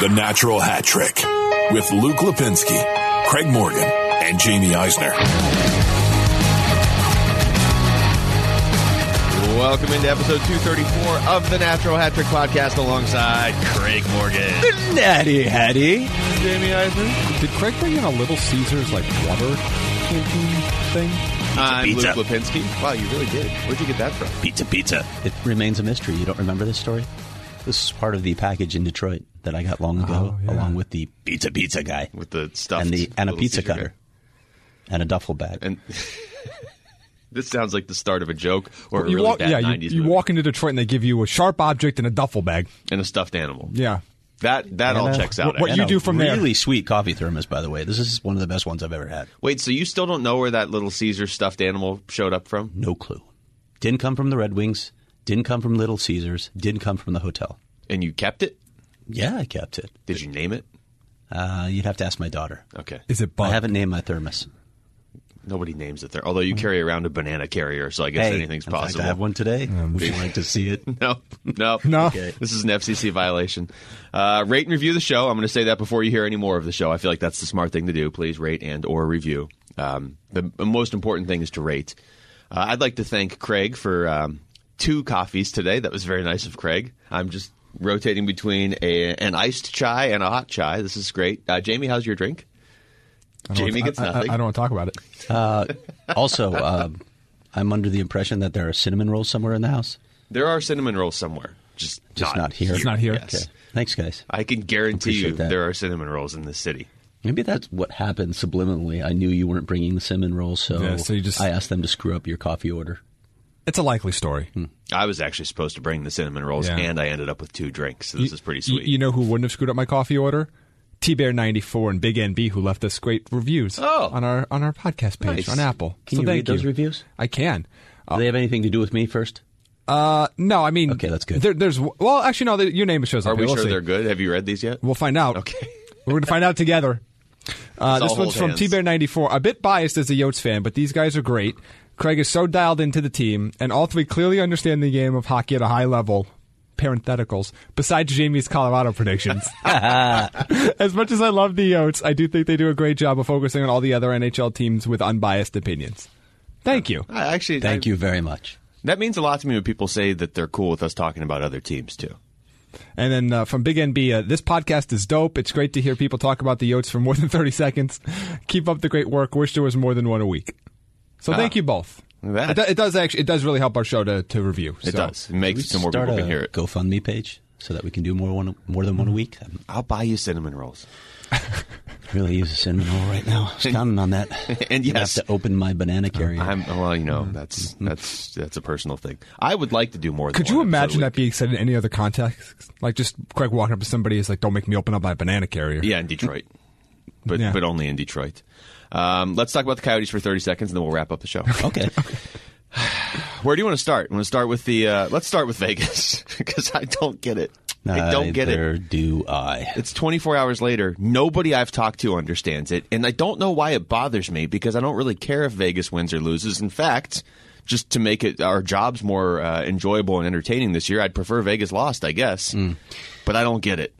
The Natural Hat Trick with Luke Lipinski, Craig Morgan, and Jamie Eisner. Welcome into episode 234 of the Natural Hat Trick podcast alongside Craig Morgan. The Natty Hattie. Jamie Eisner. Did Craig bring in a Little Caesars, like, water canteen thing? I'm pizza. Luke Lipinski. Wow, you really did. Where'd you get that from? Pizza. It remains a mystery. You don't remember this story? This is part of the package in Detroit that I got long ago, along with the pizza guy. With the stuffed and a pizza Caesar cutter. guy. And a duffel bag. And this sounds like the start of a joke or a You really walk, bad yeah, 90s you movie. walk into Detroit and they give you a sharp object and a duffel bag. And a stuffed animal. Yeah. That all checks out. what actually. you do from there. Really sweet coffee thermos, by the way. This is one of the best ones I've ever had. Wait, so you still don't know where that Little Caesar stuffed animal showed up from? No clue. Didn't come from the Red Wings. Didn't come from Little Caesars. Didn't come from the hotel. And you kept it? Yeah, I kept it. Did you name it? You'd have to ask my daughter. Okay. Is it I bug? haven't named my thermos. Nobody names it there. Although you carry around a banana carrier, so I guess anything's in fact, possible. I have one today. Would you like to see it? No. No. Okay. This is an FCC violation. Rate and review the show. I'm going to say that before you hear any more of the show. I feel like that's the smart thing to do. Please rate and or review. The most important thing is to rate. I'd like to thank Craig for 2 coffees today. That was very nice of Craig. I'm just rotating between an iced chai and a hot chai. This is great. Jamie, how's your drink? Jamie gets nothing. I don't want to talk about it. Also, I'm under the impression that there are cinnamon rolls somewhere in the house. There are cinnamon rolls somewhere. Just not here. It's not here. Yes. Okay. Thanks, guys. I can guarantee you Appreciate that. there are cinnamon rolls in this city. Maybe that's what happened subliminally. I knew you weren't bringing the cinnamon rolls, so, Yeah, so you just- I asked them to screw up your coffee order. It's a likely story. I was actually supposed to bring the cinnamon rolls, Yeah. and I ended up with 2 drinks. So this is pretty sweet. You know who wouldn't have screwed up my coffee order? T-Bear94 and Big NB, who left us great reviews on our podcast page Nice. on Apple. Can so you thank read those reviews? I can. Do they have anything to do with me first? No, I mean... Okay, that's good. There's actually, no, your name shows up Are we here. We'll sure see. they're good? Have you read these yet? We'll find out. Okay. We're going to find out together. all This one's hold from hands. T-Bear94. A bit biased as a Yotes fan, but these guys are great. Craig is so dialed into the team, and all 3 clearly understand the game of hockey at a high level. Parentheticals. Besides Jamie's Colorado predictions. As much as I love the Yotes, I do think they do a great job of focusing on all the other NHL teams with unbiased opinions. Thank you. Thank you very much. That means a lot to me when people say that they're cool with us talking about other teams, too. And then from Big NB, this podcast is dope. It's great to hear people talk about the Yotes for more than 30 seconds. Keep up the great work. Wish there was more than one a week. So thank you both. It does really help our show to review. It does. It makes it so more Start people a can hear it. GoFundMe page so that we can do more than one a week. I'll buy you cinnamon rolls. Really use a cinnamon roll right now. I was counting on that. And I yes. have to open my banana carrier. That's a personal thing. I would like to do more than Could you one episode imagine a that week. being said in any other context? Like just Craig walking up to somebody is like, "Don't make me open up my banana carrier." Yeah, in Detroit. But Yeah. but only in Detroit. Let's talk about the Coyotes for 30 seconds, and then we'll wrap up the show. Okay. Where do you want to start? Want to start with the? Let's start with Vegas because I don't get it. I don't get it. Neither do I. It's 24 hours later. Nobody I've talked to understands it, and I don't know why it bothers me because I don't really care if Vegas wins or loses. In fact, just to make our jobs more enjoyable and entertaining this year, I'd prefer Vegas lost, I guess. But I don't get it.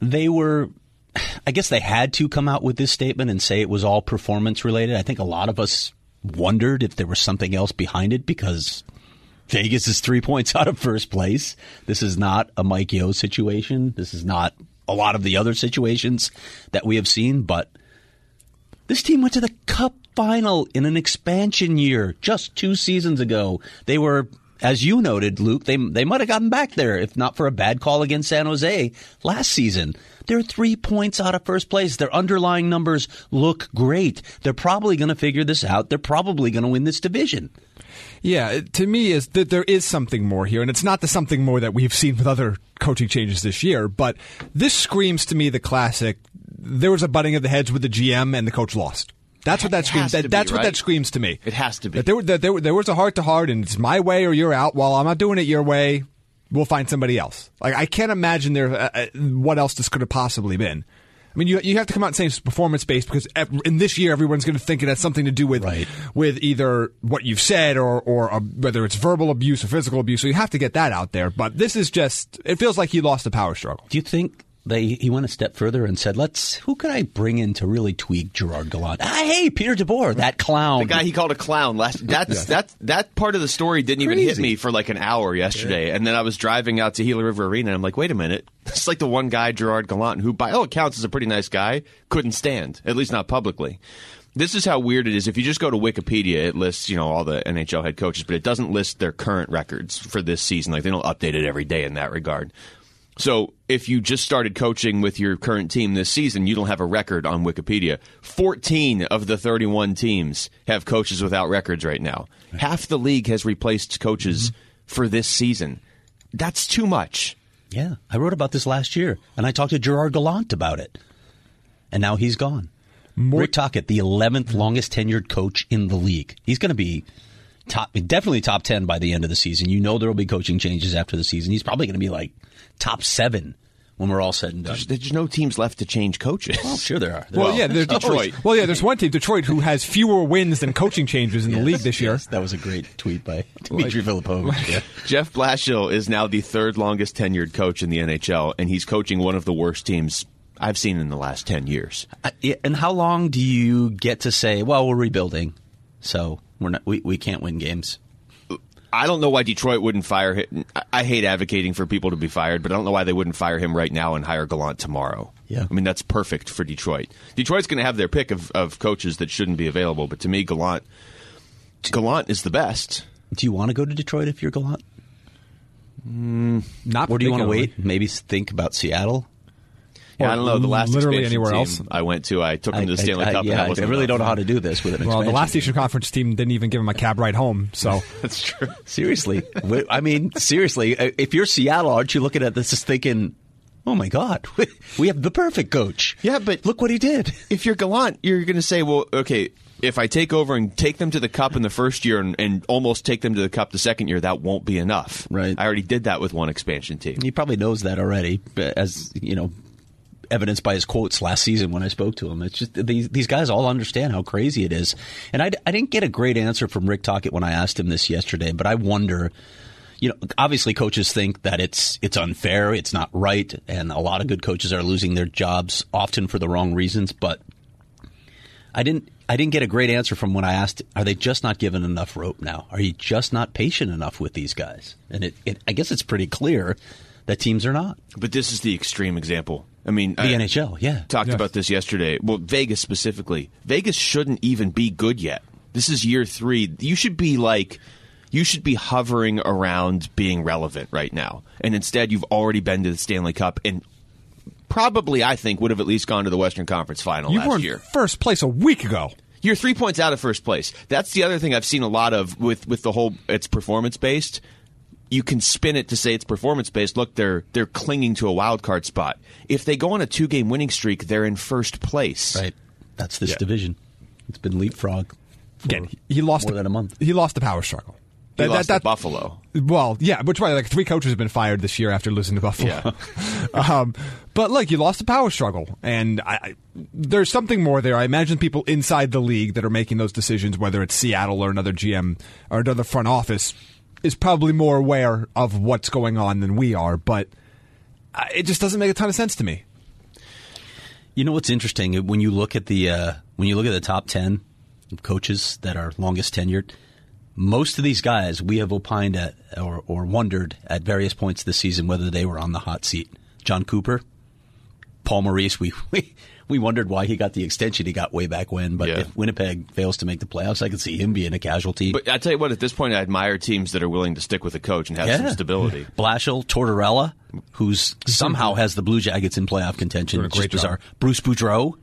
I guess they had to come out with this statement and say it was all performance related. I think a lot of us wondered if there was something else behind it because Vegas is 3 points out of first place. This is not a Mike Yeo situation. This is not a lot of the other situations that we have seen. But this team went to the Cup final in an expansion year just 2 seasons ago. They were, as you noted, Luke, they might have gotten back there if not for a bad call against San Jose last season. They're 3 points out of first place. Their underlying numbers look great. They're probably going to figure this out. They're probably going to win this division. Yeah, to me is that there is something more here, and it's not the something more that we've seen with other coaching changes this year, but this screams to me the classic, there was a butting of the heads with the GM and the coach lost. That's what that screams. That's what that screams to me. It has to be. That there was a heart-to-heart, and it's my way or you're out. Well, I'm not doing it your way. We'll find somebody else. Like I can't imagine what else this could have possibly been. I mean, you have to come out and say it's performance-based because in this year everyone's going to think it has something to do with either what you've said or whether it's verbal abuse or physical abuse. So you have to get that out there. But this is just, it feels like he lost the power struggle. Do you think he went a step further and said, who could I bring in to really tweak Gerard Gallant? Hey, Peter DeBoer, that clown. The guy he called a clown. That part of the story didn't even hit me for like an hour yesterday. Yeah. And then I was driving out to Gila River Arena, and I'm like, wait a minute. It's like the one guy, Gerard Gallant, who by all accounts is a pretty nice guy, couldn't stand, at least not publicly. This is how weird it is. If you just go to Wikipedia, it lists, all the NHL head coaches, but it doesn't list their current records for this season. Like, they don't update it every day in that regard. So if you just started coaching with your current team this season, you don't have a record on Wikipedia. 14 of the 31 teams have coaches without records right now. Half the league has replaced coaches for this season. That's too much. Yeah, I wrote about this last year, and I talked to Gerard Gallant about it. And now he's gone. Rick Tocchet, the 11th longest tenured coach in the league. He's going to be definitely top 10 by the end of the season. There will be coaching changes after the season. He's probably going to be like top 7 when we're all said and done. There's no teams left to change coaches. Well, sure there are. There's Detroit. Well, yeah, there's one team, Detroit, who has fewer wins than coaching changes in the league this year. Yes, that was a great tweet by Dmitry Filipovich. Yeah. Jeff Blashill is now the 3rd longest tenured coach in the NHL, and he's coaching one of the worst teams I've seen in the last 10 years. And how long do you get to say, well, we're rebuilding, so we can't win games? I don't know why Detroit wouldn't fire him. I hate advocating for people to be fired, but I don't know why they wouldn't fire him right now and hire Gallant tomorrow. Yeah. I mean, that's perfect for Detroit. Detroit's going to have their pick of coaches that shouldn't be available, but to me, Gallant is the best. Do you want to go to Detroit if you're Gallant? Not Or do you want to wait? Maybe think about Seattle? Yeah, I don't know. The last literally expansion anywhere team else. I went to, I took him to the Stanley Cup. Yeah, I really don't know how to do this with an expansion. Well, the last Eastern Conference team didn't even give him a cab ride home, so. That's true. Seriously. Seriously, if you're Seattle, aren't you looking at this thinking, oh my God, we have the perfect coach. Yeah, but look what he did. If you're Gallant, you're going to say, well, okay, if I take over and take them to the Cup in the first year and almost take them to the Cup the second year, that won't be enough. Right. I already did that with one expansion team. He probably knows that already, as evidenced by his quotes last season when I spoke to him. It's just these guys all understand how crazy it is. And I didn't get a great answer from Rick Tocchet when I asked him this yesterday, but I wonder, obviously coaches think that it's unfair, it's not right, and a lot of good coaches are losing their jobs often for the wrong reasons, but I didn't get a great answer from when I asked, are they just not given enough rope now? Are you just not patient enough with these guys? And I guess it's pretty clear that teams are not. But this is the extreme example. I mean, the NHL, yeah. Talked about this yesterday. Well, Vegas specifically. Vegas shouldn't even be good yet. This is year 3. You should be hovering around being relevant right now. And instead, you've already been to the Stanley Cup and probably, I think, would have at least gone to the Western Conference Final last year. You were in first place a week ago. You're 3 points out of first place. That's the other thing I've seen a lot of with the whole it's performance-based. You can spin it to say it's performance-based. Look, they're clinging to a wild card spot. If they go on a 2-game winning streak, they're in first place. Right. That's this division. It's been leapfrog for he lost more than a month. He lost the power struggle. He lost to Buffalo. Well, yeah, which way? Like 3 coaches have been fired this year after losing to Buffalo. Yeah. But look, you lost the power struggle, and there's something more there. I imagine people inside the league that are making those decisions, whether it's Seattle or another GM or another front office, is probably more aware of what's going on than we are. But it just doesn't make a ton of sense to me. You know what's interesting when you look at the top 10 coaches that are longest tenured. Most of these guys we have opined at or wondered at various points this season whether they were on the hot seat. John Cooper, Paul Maurice, we wondered why he got the extension he got way back when. But if Winnipeg fails to make the playoffs, I could see him being a casualty. But I tell you what, at this point, I admire teams that are willing to stick with a coach and have some stability. Blashill, Tortorella, who's somehow has the Blue Jackets in playoff contention. It's just bizarre. Bruce Boudreau,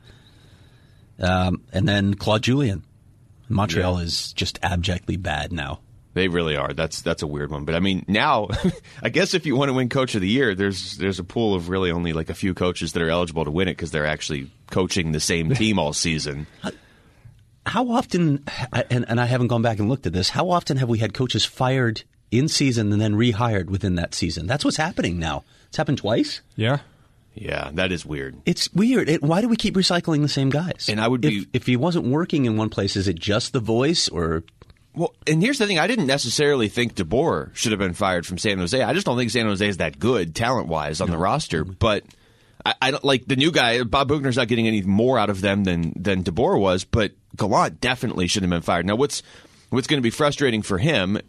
and then Claude Julien. Montreal is just abjectly bad now. They really are. That's a weird one. But I mean, now, I guess if you want to win Coach of the Year, there's a pool of really only like a few coaches that are eligible to win it because they're actually coaching the same team all season. How often, and I haven't gone back and looked at this, how often have we had coaches fired in season and then rehired within that season? That's what's happening now. It's happened twice. Yeah. Yeah, that is weird. It's weird. Why do we keep recycling the same guys? And I would be if he wasn't working in one place, is it just the voice or? Well, and here's the thing. I didn't necessarily think DeBoer should have been fired from San Jose. I just don't think San Jose is that good talent-wise on the roster. But I don't like the new guy. Bob Bugner's not getting any more out of them than DeBoer was, but Gallant definitely should have been fired. Now, what's going to be frustrating for him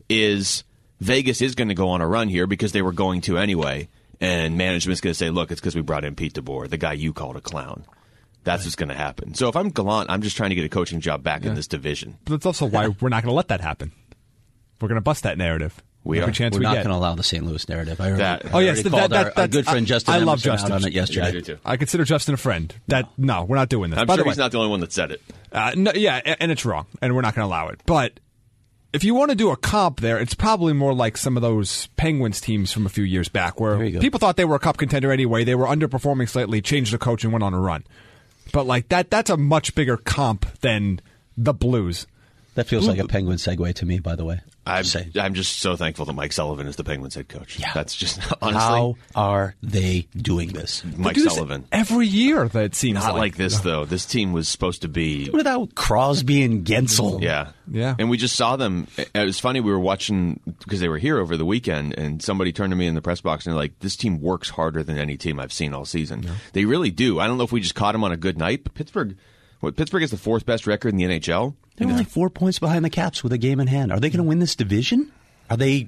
is Vegas is going to go on a run here because they were going to anyway, and management's going to say, look, it's because we brought in Pete DeBoer, the guy you called a clown. That's what's going to happen. So if I'm Gallant, I'm just trying to get a coaching job back in this division. But that's also why we're not going to let that happen. We're going to bust that narrative. We are. We're not going to allow the St. Louis narrative. I That- already called our good friend Justin I love Emerson Justin. out on it yesterday. Yeah, I do too. I consider Justin a friend. No, we're not doing this. I'm By sure the way, he's not the only one that said it. no, yeah, and it's wrong, and we're not going to allow it. But if you want to do a comp there, it's probably more like some of those Penguins teams from a few years back where There you go. people thought they were a cup contender anyway. They were underperforming slightly, changed the coach, and went on a run. But like that's a much bigger comp than the Blues. That feels like a Penguin segue to me, by the way. I'm just so thankful that Mike Sullivan is the Penguins head coach. Yeah. That's just honestly How are they doing this? Mike They do this Sullivan. every year. That seems Not like this though. This team was supposed to be. Without Crosby and Gensel. Yeah. Yeah. And we just saw them. It was funny. We were watching because they were here over the weekend, and somebody turned to me in the press box and they're like, this team works harder than any team I've seen all season. Yeah. They really do. I don't know if we just caught them on a good night, but Pittsburgh is the fourth best record in the NHL. They're only 4 points behind the Caps with a game in hand. Are they going to win this division? Are they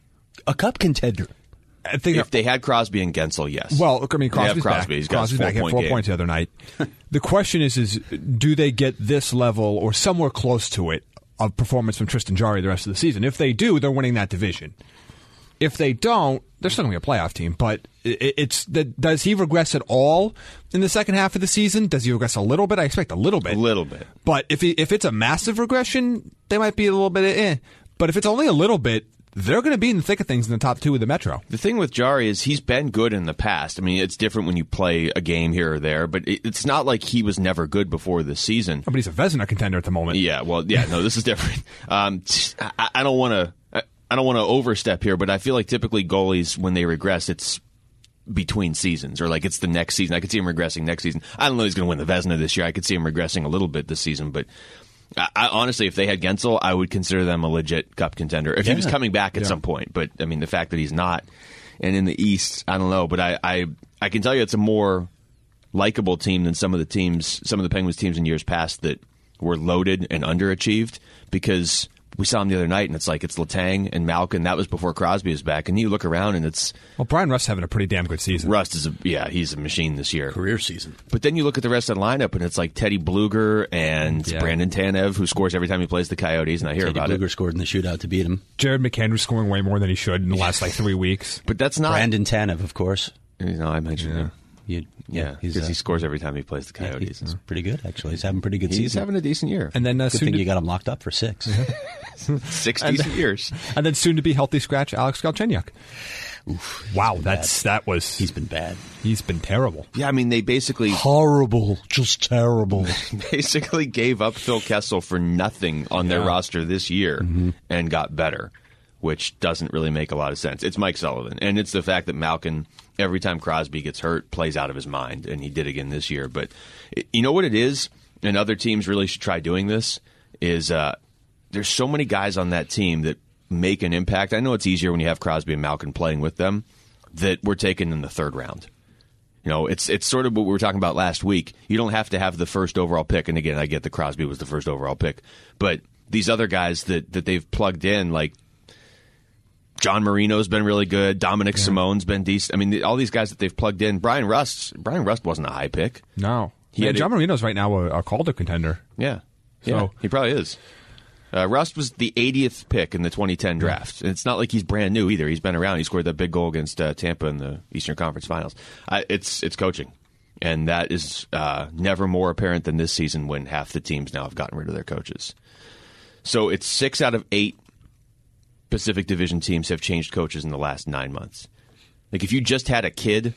a cup contender? I think If they had Crosby and Gensel, yes. Well, I mean, They have Crosby's Crosby. back. He's got Crosby's back. He had 4 game. points the other night. The question is do they get this level or somewhere close to it of performance from Tristan Jarry the rest of the season? If they do, they're winning that division. If they don't, they're still going to be a playoff team. But does he regress at all in the second half of the season? Does he regress a little bit? I expect a little bit. A little bit. But if it's a massive regression, they might be a little bit But if it's only a little bit, they're going to be in the thick of things in the top two of the Metro. The thing with Jarry is he's been good in the past. I mean, it's different when you play a game here or there, but it's not like he was never good before this season. But he's a Vezina contender at the moment. Yeah, well, yeah, no, this is different. I don't want to overstep here, but I feel like typically goalies, when they regress, it's between seasons, or like it's the next season. I could see him regressing next season. I don't know if he's going to win the Vezina this year. I could see him regressing a little bit this season, but I honestly, if they had Gensel, I would consider them a legit cup contender if he was coming back at some point. But I mean, the fact that he's not, and in the East, I don't know. But I can tell you, it's a more likable team than some of the Penguins teams in years past that were loaded and underachieved, because we saw him the other night, and it's like it's Letang and Malkin. That was before Crosby was back, and you look around, and it's Brian Rust's having a pretty damn good season. Rust is he's a machine this year. Career season. But then you look at the rest of the lineup, and it's like Teddy Bluger and Brandon Tanev, who scores every time he plays the Coyotes, and I hear about Teddy Bluger it. scored in the shootout to beat him. Jared McAndrews scoring way more than he should in the last 3 weeks. But that's not Brandon Tanev, of course. I mentioned him. Yeah, because he scores every time he plays the Coyotes. He's pretty good, actually. He's having a pretty good He's season. having a decent year. And then Good thing you got him locked up for 6. 6 decent years. And then soon to be healthy scratch Alex Galchenyuk. Wow, He's been bad. He's been terrible. Yeah, I mean, they basically Horrible. Just terrible. basically gave up Phil Kessel for nothing on their roster this year and got better, which doesn't really make a lot of sense. It's Mike Sullivan, and it's the fact that Malkin, every time Crosby gets hurt, plays out of his mind, and he did again this year. But you know what it is, and other teams really should try doing this, is there's so many guys on that team that make an impact. I know it's easier when you have Crosby and Malkin playing with them, that were taken in the third round. You know, it's sort of what we were talking about last week. You don't have to have the first overall pick, and again, I get that Crosby was the first overall pick, but these other guys that they've plugged in, like John Marino's been really good. Dominic Simone's been decent. I mean, all these guys that they've plugged in. Brian Rust wasn't a high pick. No. Had John Marino's right now a Calder contender. Yeah. So he probably is. Rust was the 80th pick in the 2010 draft. And it's not like he's brand new either. He's been around. He scored that big goal against Tampa in the Eastern Conference Finals. It's coaching. And that is never more apparent than this season, when half the teams now have gotten rid of their coaches. So it's 6 out of 8 Pacific Division teams have changed coaches in the last 9 months. Like, if you just had a kid,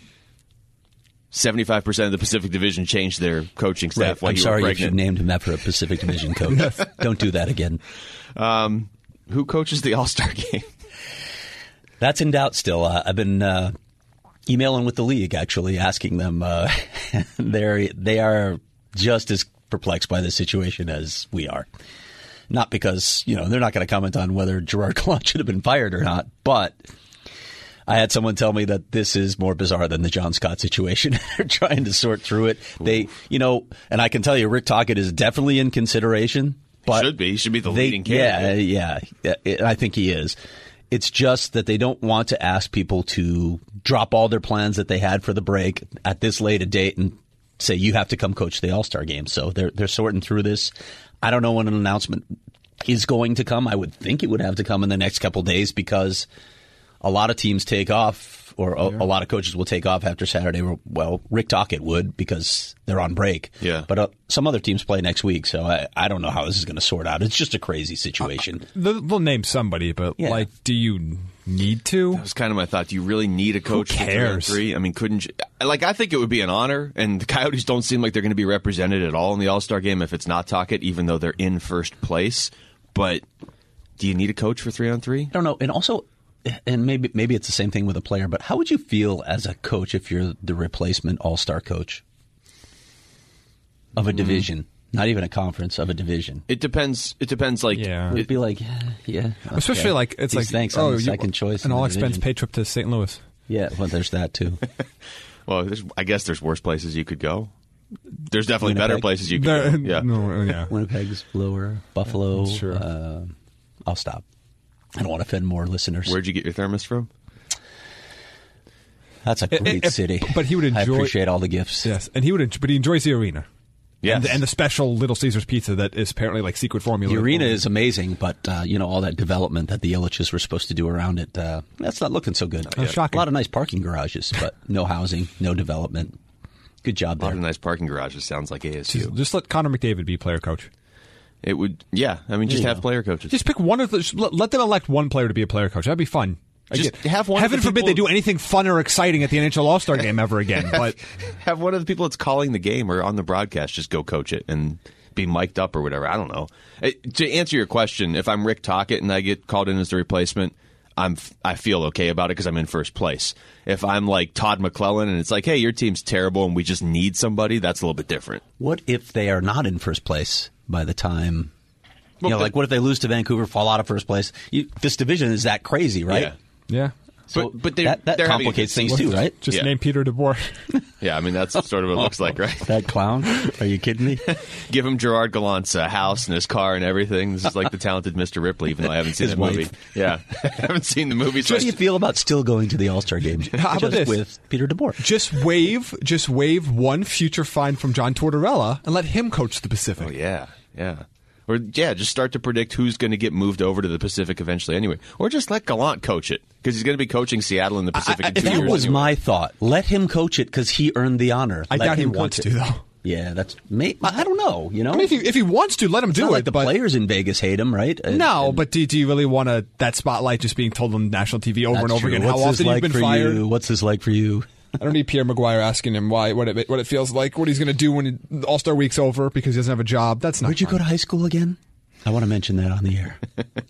75% of the Pacific Division changed their coaching staff while I'm you sorry were if you pregnant. named him after a Pacific Division coach. Don't do that again. Who coaches the All-Star game? That's in doubt still. I've been emailing with the league, actually, asking them. They are just as perplexed by the situation as we are. Not because, they're not going to comment on whether Gerard Gallant should have been fired or not, but I had someone tell me that this is more bizarre than the John Scott situation. They're trying to sort through it. They, and I can tell you, Rick Tocchet is definitely in consideration. But should be. He should be the leading candidate. Yeah. I think he is. It's just that they don't want to ask people to drop all their plans that they had for the break at this late a date and say, you have to come coach the All-Star game. So they're sorting through this. I don't know when an announcement is going to come. I would think it would have to come in the next couple of days because a lot of teams take off, or a lot of coaches will take off after Saturday. Well, Rick Tocchet would because they're on break. Yeah. But some other teams play next week, so I don't know how this is going to sort out. It's just a crazy situation. They'll name somebody, but do you need to? That was kind of my thought. Do you really need a coach Who cares? for 3-on-3? I mean, couldn't you? I think it would be an honor, and the Coyotes don't seem like they're going to be represented at all in the All-Star game if it's not Tocchet, even though they're in first place. But do you need a coach for 3-on-3? I don't know. And also, and maybe it's the same thing with a player, but how would you feel as a coach if you're the replacement all-star coach of a division? Not even a conference, of a division. It depends. It depends. Like, It'd be like, okay. Especially like it's These like thanks, I'm the second choice, an in the all-expense division. paid trip to St. Louis. Yeah, well, there's that too. well, I guess there's worse places you could go. There's definitely Winnipeg. better places you could go. Yeah. No. Winnipeg's lower. Buffalo. Sure. I'll stop. I don't want to offend more listeners. Where'd you get your thermos from? That's a great city. But he would enjoy. I appreciate all the gifts. Yes, and but he enjoys the arena. Yes. And the special Little Caesars pizza that is apparently like secret formula. The arena is amazing, but all that development that the Illiches were supposed to do around it, that's not looking so good. Shocking. A lot of nice parking garages, but no housing, no development. Good job A lot there. of nice parking garages. Sounds like ASU. Just let Connor McDavid be player coach. It would, yeah. I mean, just There you have go. player coaches. Just pick one of the. Let them elect one player to be a player coach. That'd be fun. Just have one of Heaven the forbid people- they do anything fun or exciting at the NHL All-Star game ever again. But Have one of the people that's calling the game or on the broadcast just go coach it and be mic'd up or whatever. I don't know. To answer your question, if I'm Rick Tocchet and I get called in as the replacement, I feel okay about it because I'm in first place. If I'm like Todd McClellan and it's like, hey, your team's terrible and we just need somebody, that's a little bit different. What if they are not in first place by the time? Well, What if they lose to Vancouver, fall out of first place? This division is that crazy, right? Yeah. yeah, So But that they're having a complicates good things season. too, right? just Yeah. name Peter DeBoer. Yeah, I mean, that's sort of what it looks like, right? That clown? Are you kidding me? Give him Gerard Gallant's house and his car and everything. This is like the talented Mr. Ripley, even though I haven't seen His the movie. wife. Yeah, I haven't seen the movie. So How do you feel about still going to the All-Star game? How about just this? with Peter DeBoer? Just waive one future fine from John Tortorella and let him coach the Pacific. Oh, yeah. Or, just start to predict who's going to get moved over to the Pacific eventually anyway. Or just let Gallant coach it, because he's going to be coaching Seattle in the Pacific in 2 years. That was anyway. my thought. Let him coach it because he earned the honor. I Let doubt he him wants coach to, it. though. Yeah, that's. I don't know. I mean, if he wants to, let him It's do not it. like the but players in Vegas hate him, right? no, but do you really want that spotlight just being told on national TV over and over again? How often you've been fired? What's this like for you? I don't need Pierre Maguire asking him what it feels like, what he's going to do when All-Star week's over because he doesn't have a job. That's not. Where'd you fun. go to high school again? I want to mention that on the air.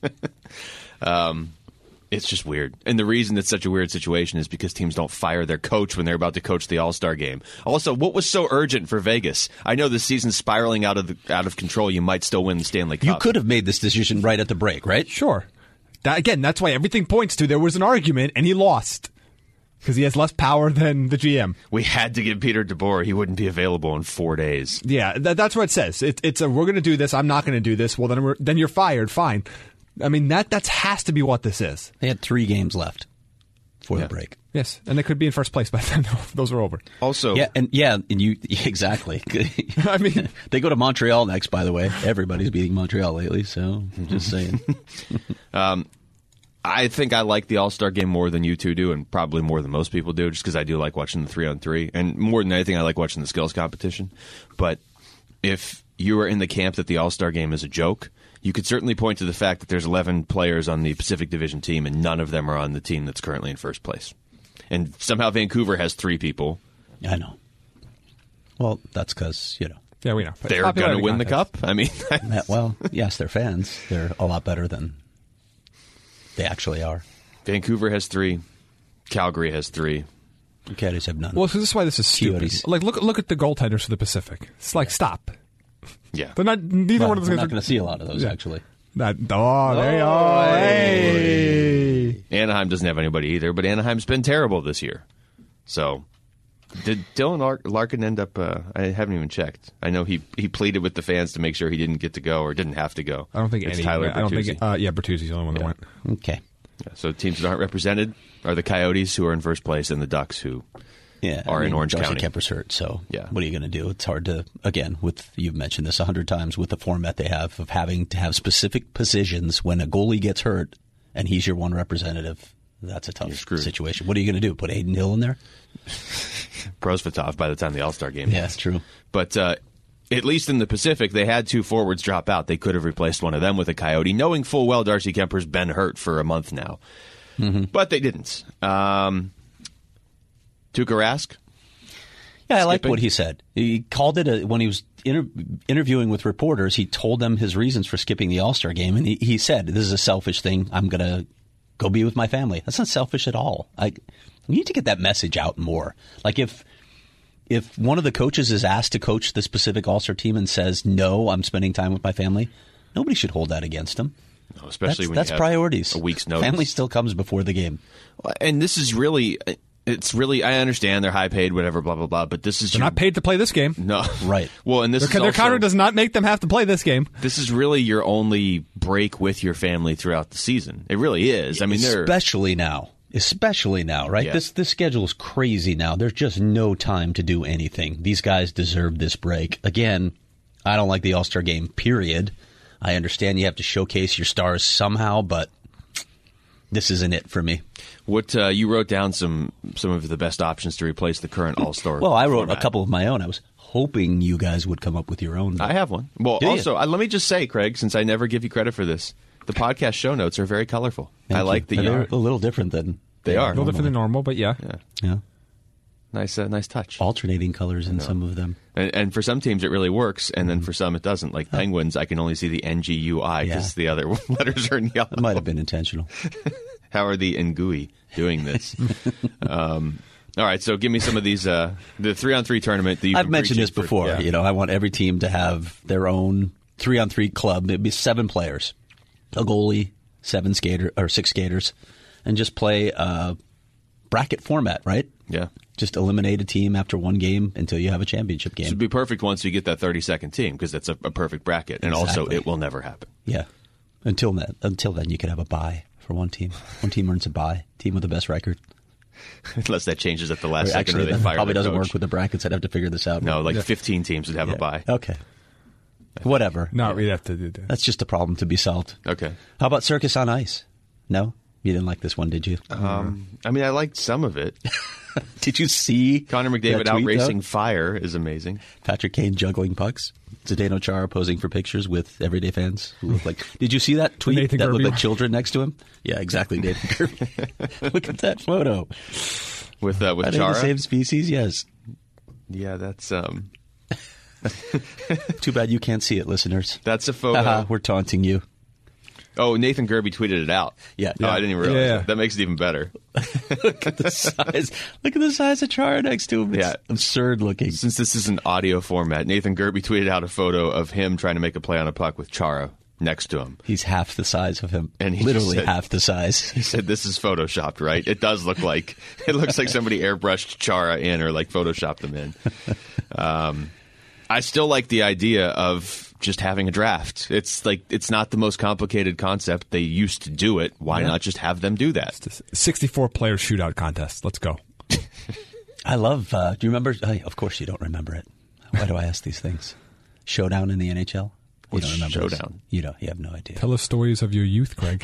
It's just weird. And the reason it's such a weird situation is because teams don't fire their coach when they're about to coach the All-Star game. Also, what was so urgent for Vegas? I know the season's spiraling out of control. You might still win the Stanley Cup. You could have made this decision right at the break, right? Sure. That's why everything points to there was an argument and he lost because he has less power than the GM. We had to give Peter DeBoer. He wouldn't be available in 4 days. Yeah, that's what it says. It's we're going to do this. I'm not going to do this. Well, then you're fired. Fine. I mean that has to be what this is. They had 3 games left for the break. Yes, and they could be in first place by then. Those are over. Also, And you exactly. I mean, they go to Montreal next. By the way, everybody's beating Montreal lately. So just saying. I think I like the All-Star game more than you two do, and probably more than most people do, just because I do like watching the 3-on-3. And more than anything, I like watching the skills competition. But if you are in the camp that the All-Star game is a joke, you could certainly point to the fact that there's 11 players on the Pacific Division team, and none of them are on the team that's currently in first place. And somehow Vancouver has 3 people. I know. Well, that's because yeah, we know. They're going to Popularity win the contest. cup. I mean, well, yes, they're fans. They're a lot better than they actually are. Vancouver has 3. Calgary has 3. The Caddies have none. Well, so this is why this is stupid. Coyotes. Like, look at the goaltenders for the Pacific. It's like, stop. Yeah. They're not. Neither Well, one of those we're guys not are going to see a lot of those, Yeah. actually. There you are. Hey. Anaheim doesn't have anybody either, but Anaheim's been terrible this year. So, did Dylan Larkin end up? I haven't even checked. I know he pleaded with the fans to make sure he didn't get to go or didn't have to go. I don't think it's any. Tyler I don't think. Bertuzzi. Bertuzzi's the only one that went. Okay. Yeah, so teams that aren't represented are the Coyotes, who are in first place, and the Ducks, who are in Orange Darcy County. Kemper's hurt, so Yeah. what are you going to do? It's hard to, again, you've mentioned this 100 times, with the format they have of having to have specific positions when a goalie gets hurt and he's your one representative. That's a tough situation. What are you going to do? Put Aiden Hill in there? Prosvetov by the time the All-Star game. Yeah, that's true. But at least in the Pacific, they had 2 forwards drop out. They could have replaced one of them with a Coyote, knowing full well Darcy Kemper's been hurt for a month now. Mm-hmm. But they didn't. Tuukka Rask? Yeah, I like what he said. He called it, when he was interviewing with reporters, he told them his reasons for skipping the All-Star game. And he said, this is a selfish thing. I'm going to go be with my family. That's not selfish at all. You need to get that message out more. Like if one of the coaches is asked to coach the specific All-Star team and says, no, I'm spending time with my family, nobody should hold that against him. No, especially when that's you have priorities. A week's notice. Family still comes before the game. And this is really, I understand they're high paid, whatever, blah, blah, blah, but this is... They're not paid to play this game. No. Right. Well, and this their contract does not make them have to play this game. This is really your only break with your family throughout the season. It really is. I mean, Especially now, right? Yeah. This schedule is crazy now. There's just no time to do anything. These guys deserve this break. Again, I don't like the All-Star game, period. I understand you have to showcase your stars somehow, but this isn't it for me. What you wrote down some of the best options to replace the current All-Star Well, I wrote format. a couple of my own. I was hoping you guys would come up with your own. I have one. Well, also, let me just say, Craig, since I never give you credit for this, the podcast show notes are very colorful. Thank I like you. that They're you're... a little different than They are. A little different than normal, but yeah. Yeah. Nice touch. Alternating colors in some of them. And for some teams, it really works, and then for some, it doesn't. Like Penguins, I can only see the NGUI because the other letters are in yellow. It might have been intentional. How are the Ngui doing this? All right, so give me some of these. The 3-on-3 tournament that I've mentioned this before. Yeah. You know, I want every team to have their own 3-on-3 club. It'd be 7 players, a goalie, 6 skaters, and just play a bracket format, right? Yeah. Just eliminate a team after one game until you have a championship game. This would be perfect once you get that 32nd team because that's a perfect bracket, and also it will never happen. Yeah. Until then, you could have a bye for one team. One team earns a bye. Team with the best record. Unless that changes at the last second, Actually, or they that fire probably the doesn't coach. work with the brackets. I'd have to figure this out. No, 15 teams would have a bye. Okay. Whatever. No, we'd have to do that. That's just a problem to be solved. Okay. How about Circus on Ice? No? You didn't like this one, did you? I mean, I liked some of it. Did you see Connor McDavid that out tweet, racing though? fire is amazing. Patrick Kane juggling pucks. Zdeno Chara posing for pictures with everyday fans who look like... Did you see that tweet Nathan that Kirby looked like one. children next to him? Yeah, exactly, Nathan Kirby. Look at that photo. With Are they Chara? the same species? Yes. Yeah, that's Too bad you can't see it, listeners. a photo. Haha, we're taunting you. Oh, Nathan Kirby tweeted it out. Yeah. Oh, I didn't even realize Yeah. that. That makes it even better. Look at the size. Look at the size of Chara next to him. It's Yeah. absurd looking. Since this is an audio format, Nathan Kirby tweeted out a photo of him trying to make a play on a puck with Chara next to him. He's half the size of him. And he literally just said- half the size. He said, "This is photoshopped, right? It does look like it looks like somebody airbrushed Chara in or like photoshopped them in." I still like the idea of just having a draft. It's like it's not the most complicated concept. They used to do it. Why not just have them do that? 64-player shootout contest. Let's go. I love, do you remember? Of course you don't remember it. Why do I ask these things? Showdown in the NHL? You don't remember this? Showdown? You have no idea. Tell us stories of your youth, Craig.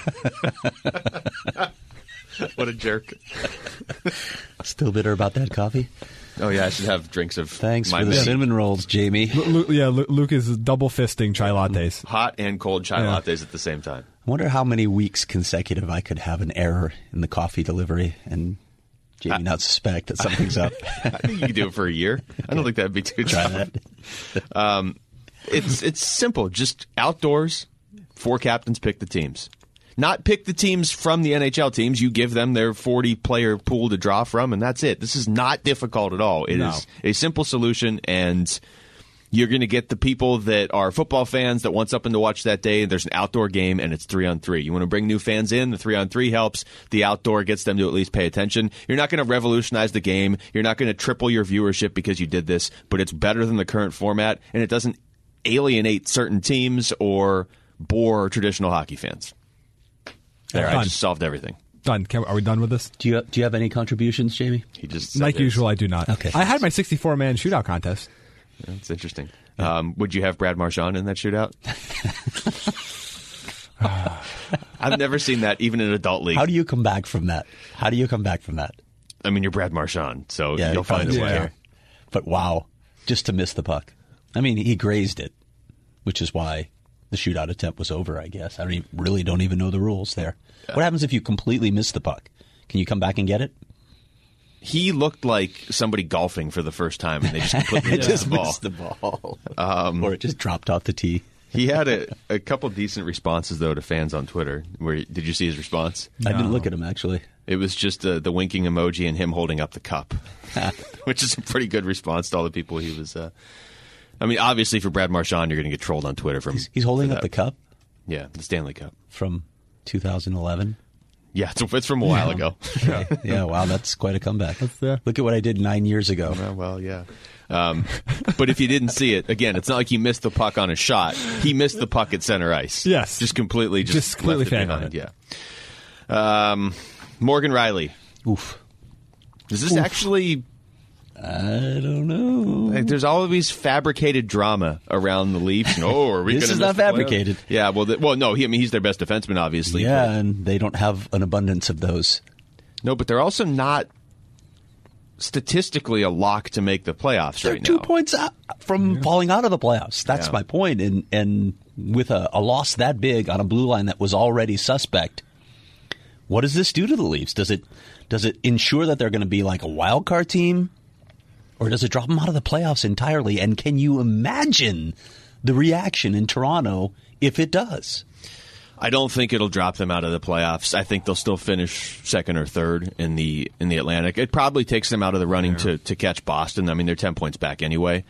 What a jerk! Still bitter about that coffee? Oh yeah, I should have drinks of Thanks my for the mix. cinnamon rolls, Jamie. Luke is double fisting chai lattes. Hot and cold chai Yeah. lattes at the same time. I wonder how many weeks consecutive I could have an error in the coffee delivery and Jamie not suspect that something's up. I think you could do it for a year. I don't think that'd be too Try tough. that. It's simple. Just outdoors, 4 captains pick the teams. Not pick the teams from the NHL teams. You give them their 40-player pool to draw from, and that's it. This is not difficult at all. It is a simple solution, and You're going to get the people that are football fans that want something to watch that day. There's an outdoor game, and it's 3-on-3. You want to bring new fans in, the 3-on-3 helps. The outdoor gets them to at least pay attention. You're not going to revolutionize the game. You're not going to triple your viewership because you did this, but it's better than the current format, and it doesn't alienate certain teams or bore traditional hockey fans. There, I just solved everything. Done. Are we done with this? Do you have any contributions, Jamie? He just said Like this. usual, I do not. Okay. I had my 64-man shootout contest. That's interesting. Would you have Brad Marchand in that shootout? I've never seen that, even in adult league. How do you come back from that? I mean, you're Brad Marchand, so Yeah, you'll find a probably way. Yeah. But wow, just to miss the puck. I mean, he grazed it, which is why the shootout attempt was over, I guess. I don't even know the rules there. What happens if you completely miss the puck? Can you come back and get it? He looked like somebody golfing for the first time, and they just completely missed the ball. Or it just dropped off the tee. He had a couple decent responses, though, to fans on Twitter. Did you see his response? I didn't look at him, actually. It was just the winking emoji and him holding up the cup, which is a pretty good response to all the people he was... I mean, obviously, for Brad Marchand, you're going to get trolled on Twitter. He's holding up the cup Yeah, the Stanley Cup. from 2011. Yeah, it's from a while ago. Yeah, wow, that's quite a comeback. yeah. Look at what I did 9 years ago. Well, yeah. But if you didn't see it, again, it's not like he missed the puck on a shot. He missed the puck at center ice. Yes. Just completely left it fanned on behind. it. Yeah. Morgan Riley. Oof. Is this actually... I don't know. Like, there's all of these fabricated drama around the Leafs. Are we This gonna is miss not the playoffs? fabricated. Yeah, no. He's their best defenseman, obviously. Yeah, but- and they don't have an abundance of those. No, but they're also not statistically a lock to make the playoffs They're right 2 now. points out from falling out of the playoffs. That's Yeah. my point. And with a loss that big on a blue line that was already suspect, what does this do to the Leafs? Does it ensure that they're going to be like a wild card team? Or does it drop them out of the playoffs entirely? And can you imagine the reaction in Toronto if it does? I don't think it'll drop them out of the playoffs. I think they'll still finish second or third in the Atlantic. It probably takes them out of the running to catch Boston. I mean, they're 10 points back anyway.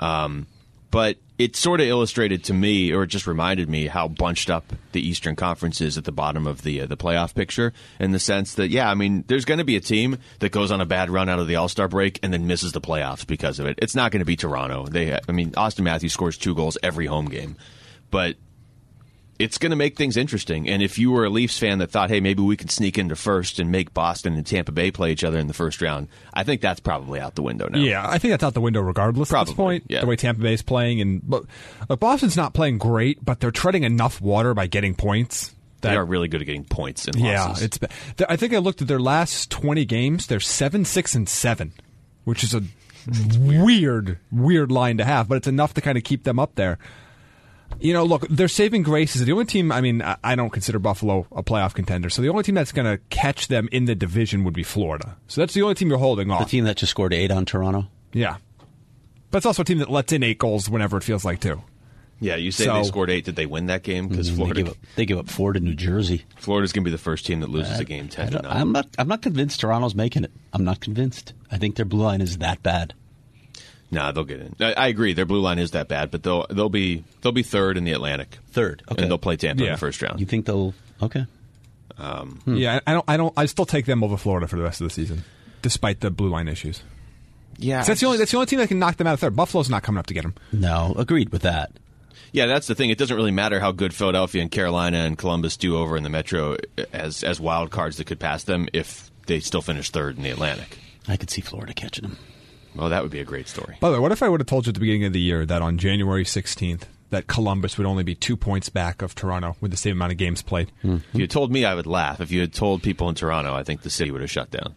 But it sort of illustrated to me, or it just reminded me, how bunched up the Eastern Conference is at the bottom of the playoff picture, in the sense that, yeah, I mean, there's going to be a team that goes on a bad run out of the All-Star break and then misses the playoffs because of it. It's not going to be Toronto. Austin Matthews scores 2 goals every home game. But it's going to make things interesting. And if you were a Leafs fan that thought, hey, maybe we could sneak into first and make Boston and Tampa Bay play each other in the first round, I think that's probably out the window now. Yeah, I think that's out the window regardless at this point, yeah. the way Tampa Bay is playing. But Boston's not playing great, but they're treading enough water by getting points. They are really good at getting points in losses. I think I looked at their last 20 games. They're 7-6-7, which is a weird line to have, but it's enough to kind of keep them up there. You know, look, their saving grace is the only team. I mean, I don't consider Buffalo a playoff contender, so the only team that's going to catch them in the division would be Florida. So that's the only team you're holding off. The team that just scored 8 on Toronto? Yeah. But it's also a team that lets in 8 goals whenever it feels like, too. Yeah, you say they scored 8. Did they win that game? Because They give up 4 to New Jersey. Florida's going to be the first team that loses a game 10-9. I'm not convinced Toronto's making it. I'm not convinced. I think their blue line is that bad. Nah, they'll get in. I agree. Their blue line is that bad, but they'll be third in the Atlantic. Third, okay. And they'll play Tampa in the first round. You think they'll? Okay. Yeah, I still take them over Florida for the rest of the season, despite the blue line issues. Yeah, That's the only team that can knock them out of third. Buffalo's not coming up to get them. No, agreed with that. Yeah, that's the thing. It doesn't really matter how good Philadelphia and Carolina and Columbus do over in the Metro as wild cards that could pass them if they still finish third in the Atlantic. I could see Florida catching them. Well, that would be a great story. By the way, what if I would have told you at the beginning of the year that on January 16th that Columbus would only be 2 points back of Toronto with the same amount of games played? If you had told me, I would laugh. If you had told people in Toronto, I think the city would have shut down.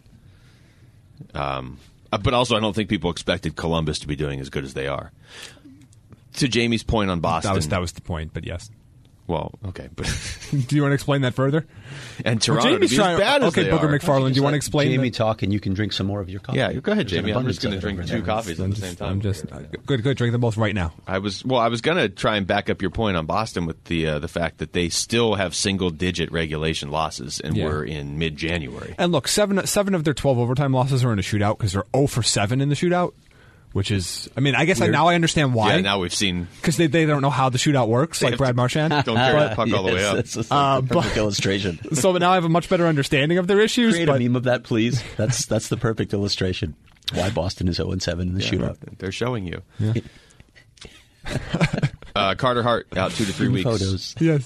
But also, I don't think people expected Columbus to be doing as good as they are. To Jamie's point on Boston. That was the point, but yes. Well, okay. But do you want to explain that further? And Toronto to be as bad as they Booker are. McFarland, do you want to explain Jamie that? talk, and you can drink some more of your coffee. Yeah, go ahead, Jamie. I'm just going to Abundance drink of it 2 over there. coffees at the same time. Good. Drink them both right now. I was going to try and back up your point on Boston with the fact that they still have single-digit regulation losses, and we're in mid-January. And look, seven of their 12 overtime losses are in a shootout because they're 0 for 7 in the shootout, which is, I mean, I guess now I understand why. Yeah, now we've seen. Because they don't know how the shootout works, like Brad Marchand. Don't carry the puck all the way up. That's a perfect illustration. So now I have a much better understanding of their issues. Create a meme of that, please. That's the perfect illustration. Why Boston is 0-7 in the shootout. They're showing you. Yeah. Carter Hart out 2 to 3 weeks. Photos. Yes.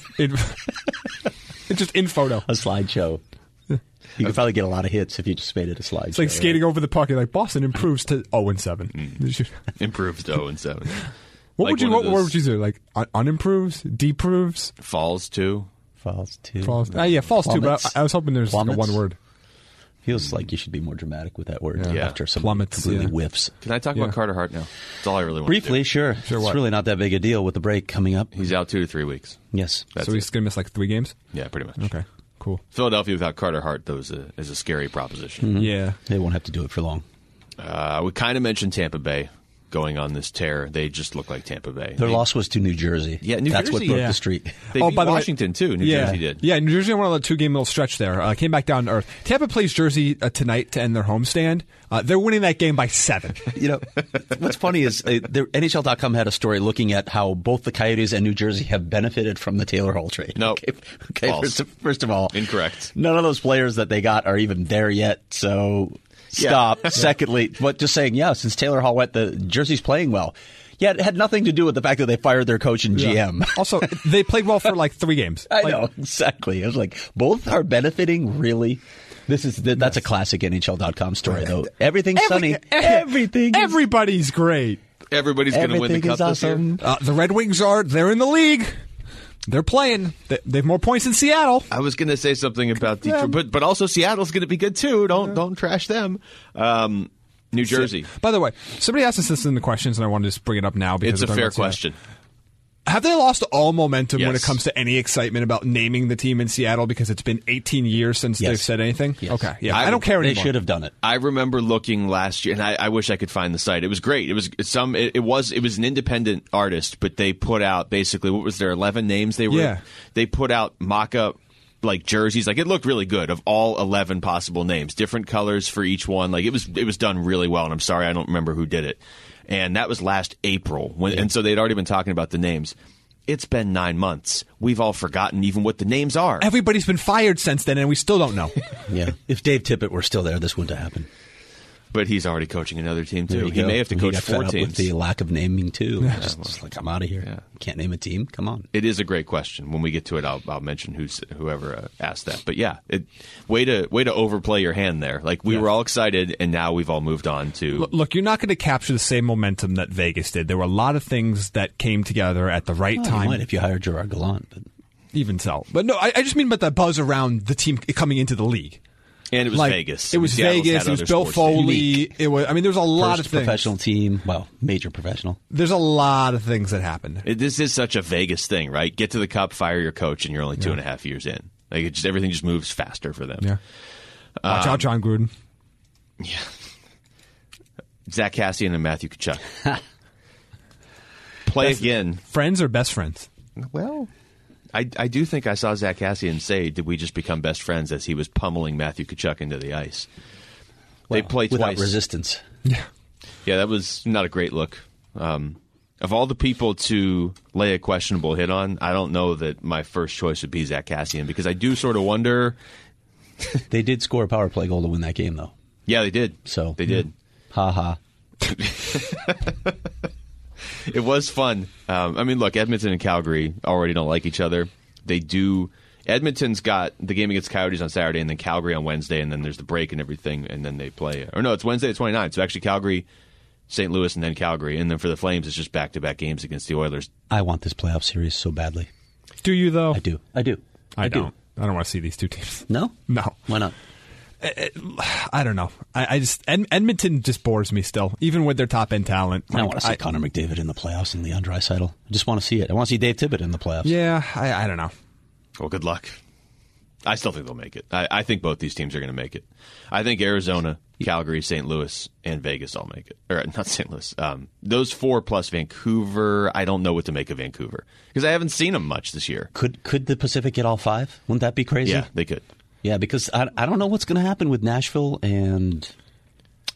It's just in photo. A slideshow. You could probably get a lot of hits if you just made it a slideshow. It's like skating over the puck. You're like, Boston improves to 0-7. Improves to 0-7. What would you do? Like unimproves, deproves, falls to, falls to. Falls 2. But I was hoping there's like one word. Feels like you should be more dramatic with that word after some plummets, completely whiffs. Can I talk about Carter Hart now? That's all I really want Briefly, to do. sure. It's really not that big a deal with the break coming up. He's out 2 to 3 weeks. Yes. So he's going to miss like 3 games? Yeah, pretty much. Okay, cool. Philadelphia without Carter Hart, though, is a scary proposition. Mm-hmm. Yeah. They won't have to do it for long. We kind of mentioned Tampa Bay going on this tear. They just look like Tampa Bay. Their loss was to New Jersey. Yeah, New That's Jersey. what broke the streak. They beat Washington, too. New Jersey did. Yeah, New Jersey won on a 2-game little stretch there. Came back down to earth. Tampa plays Jersey tonight to end their homestand. They're winning that game by 7. You know, what's funny is NHL.com had a story looking at how both the Coyotes and New Jersey have benefited from the Taylor Hall trade. No. Okay. First of all. Incorrect. None of those players that they got are even there yet, so stop. Yeah. Secondly, but just saying, since Taylor Hall went, the Jersey's playing well. Yeah, it had nothing to do with the fact that they fired their coach and GM. Also, they played well for like 3 games. I know, exactly. I was like, both are benefiting, really? That's a classic NHL.com story, though. Everything's sunny. Everybody's great. Everybody's going to win the cup awesome. this year. The Red Wings they're in the league. They're playing. They have more points than Seattle. I was going to say something about Detroit, but also Seattle's going to be good too. Don't trash them. New Jersey. By the way, somebody asked us this in the questions, and I wanted to just bring it up now because it's a fair question. Have they lost all momentum when it Yes. comes to any excitement about naming the team in Seattle because it's been 18 years since they've said anything? Yes. Okay, yeah, I don't care anymore. They should have done it. I remember looking last year, and I wish I could find the site. It was great. It was an independent artist, but they put out basically what was there 11 names they were. Yeah. They put out mock-up like jerseys. Like it looked really good of all 11 possible names, different colors for each one. Like it was done really well. And I'm sorry I don't remember who did it. And that was last April, and so they'd already been talking about the names. It's been 9 months. We've all forgotten even what the names are. Everybody's been fired since then, and we still don't know. Yeah. If Dave Tippett were still there, this wouldn't have happened. But he's already coaching another team, There too. you He go. may have to He coach got fed 4 up teams. with the lack of naming, too. Just like, I'm out of here. Yeah. Can't name a team? Come on. It is a great question. When we get to it, I'll mention whoever asked that. But yeah, way to overplay your hand there. Like we were all excited, and now we've all moved on to. Look, you're not going to capture the same momentum that Vegas did. There were a lot of things that came together at the right time. You might if you hired Gerard Gallant. But Even so, but no, I just mean about the buzz around the team coming into the league. And it was Like, Vegas. It was Seattle's Vegas. had It was other Bill sports Foley. teams. It was. I mean, there's a lot of first things. professional team. Well, major professional. There's a lot of things that happened. This is such a Vegas thing, right? Get to the cup, fire your coach, and you're only 2.5 years in. Like everything just moves faster for them. Yeah. Watch out, John Gruden. Yeah. Zach Cassian and Matthew Tkachuk. Play again. Friends or best friends? Well, I do think I saw Zach Cassian say, "Did we just become best friends?" as he was pummeling Matthew Tkachuk into the ice. They played without twice. resistance. Yeah. Yeah, that was not a great look. Of all the people to lay a questionable hit on, I don't know that my first choice would be Zach Cassian because I do sort of wonder. They did score a power play goal to win that game, though. Yeah, they did. So they did. Ha ha. It was fun. I mean, look, Edmonton and Calgary already don't like each other. They do. Edmonton's got the game against Coyotes on Saturday, and then Calgary on Wednesday, and then there's the break and everything, and then they play. Or no, it's Wednesday the 29th. So actually, Calgary, St. Louis, and then Calgary, and then for the Flames, it's just back-to-back games against the Oilers. I want this playoff series so badly. Do you though? I do. I don't. I don't want to see these two teams. No? No. Why not? I don't know. I just Edmonton just bores me still, even with their top end talent. I want to see Connor McDavid in the playoffs and Leon Draisaitl. I just want to see it. I want to see Dave Tippett in the playoffs. Yeah, I don't know. Well, good luck. I still think they'll make it. I think both these teams are going to make it. I think Arizona, Calgary, St. Louis, and Vegas all make it. Or not St. Louis. Those 4 plus Vancouver, I don't know what to make of Vancouver because I haven't seen them much this year. Could the Pacific get all 5? Wouldn't that be crazy? Yeah, they could. Yeah, because I don't know what's going to happen with Nashville and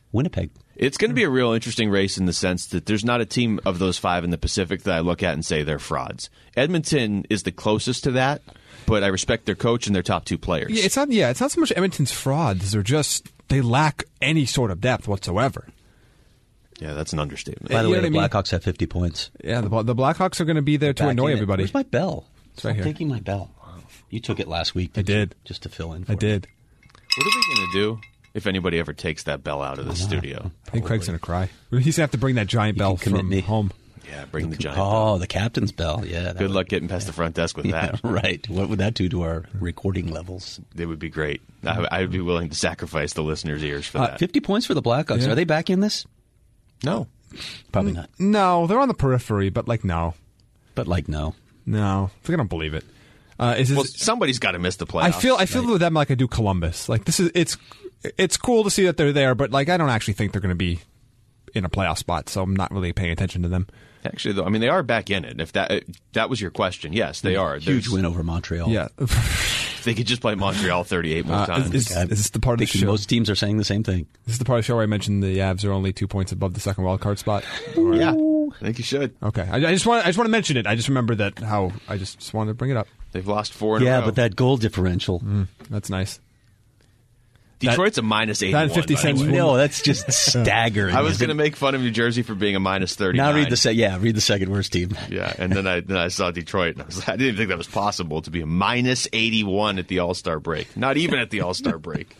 Winnipeg. It's going to be a real interesting race in the sense that there's not a team of those 5 in the Pacific that I look at and say they're frauds. Edmonton is the closest to that, but I respect their coach and their top 2 players. Yeah, it's not so much Edmonton's frauds. They're just they lack any sort of depth whatsoever. Yeah, that's an understatement. By the You way, know the what I mean? Blackhawks have 50 points. Yeah, the Blackhawks are going to be there to Back annoy in it. everybody. Where's my bell? right here. Taking my bell. You took it last week. I did. Just to fill in for I me. did. What are we going to do if anybody ever takes that bell out of the studio? I think Craig's going to cry. He's going to have to bring that giant bell can commit from me. home. Yeah, bring the giant Oh, bell. the captain's bell. Yeah. that Good would- luck getting past the front desk with Yeah, that. right. What would that do to our recording levels? It would be great. I would be willing to sacrifice the listeners' ears for that. 50 points for the Blackhawks. Yeah. Are they back in this? No. Probably not. No, they're on the periphery, but no. But no. No. I don't believe it. Well, somebody's got to miss the playoffs. I feel with them like I do Columbus. Like it's cool to see that they're there, but like I don't actually think they're going to be in a playoff spot, so I'm not really paying attention to them. Actually, though, I mean, they are back in it. If that was your question, yes, they are. Huge win over Montreal. Yeah. If they could just play Montreal 38 more times. Is this the part of the Thinking show? most teams are saying the same thing. This is the part of the show where I mentioned the Avs are only 2 points above the second wild card spot. Yeah, I think you should. Okay, I just want to mention it. I just remember that how I just wanted to bring it up. They've lost 4 in a row. Yeah, but that goal differential. That's nice. Detroit's a minus 81. that and 50 by the cents way. No, that's just staggering. I was going to make fun of New Jersey for being a minus 39. Now read the second worst team. Yeah, and then I saw Detroit, and I didn't even think that was possible to be a minus 81 at the All-Star break. Not even at the All-Star break.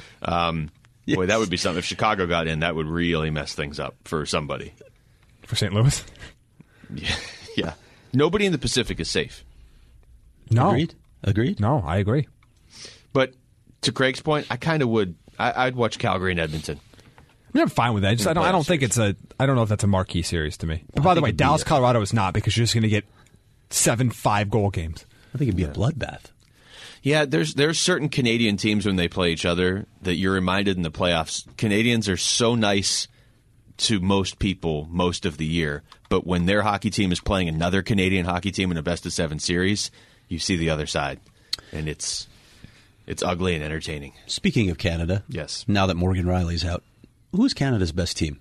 Boy, that would be something. If Chicago got in, that would really mess things up for somebody. For St. Louis? Yeah. Nobody in the Pacific is safe. No. Agreed? No, I agree. But to Craig's point, I kind of would. I'd watch Calgary and Edmonton. I mean, I'm fine with that. I don't think it's I don't know if that's a marquee series to me. But by the way, Dallas, Colorado is not because you're just going to get 7 5-goal games. I think it'd be a bloodbath. Yeah, there's certain Canadian teams when they play each other that you're reminded in the playoffs. Canadians are so nice to most people most of the year, but when their hockey team is playing another Canadian hockey team in a best-of-7 series, you see the other side, and it's ugly and entertaining. Speaking of Canada, Yes. Now that Morgan Riley's out, who's Canada's best team?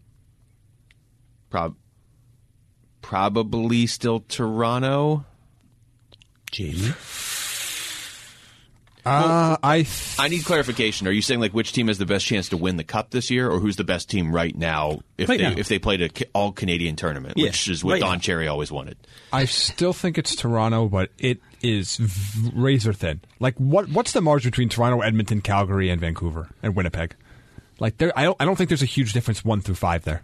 Probably still Toronto. Jamie? I need clarification. Are you saying like which team has the best chance to win the Cup this year, or who's the best team right now if they played an all Canadian tournament, Yeah, which is what right Don now. Cherry always wanted? I still think it's Toronto, but it is razor thin. Like, what's the margin between Toronto, Edmonton, Calgary, and Vancouver and Winnipeg? Like, I don't think there's a huge difference 1 through 5 there.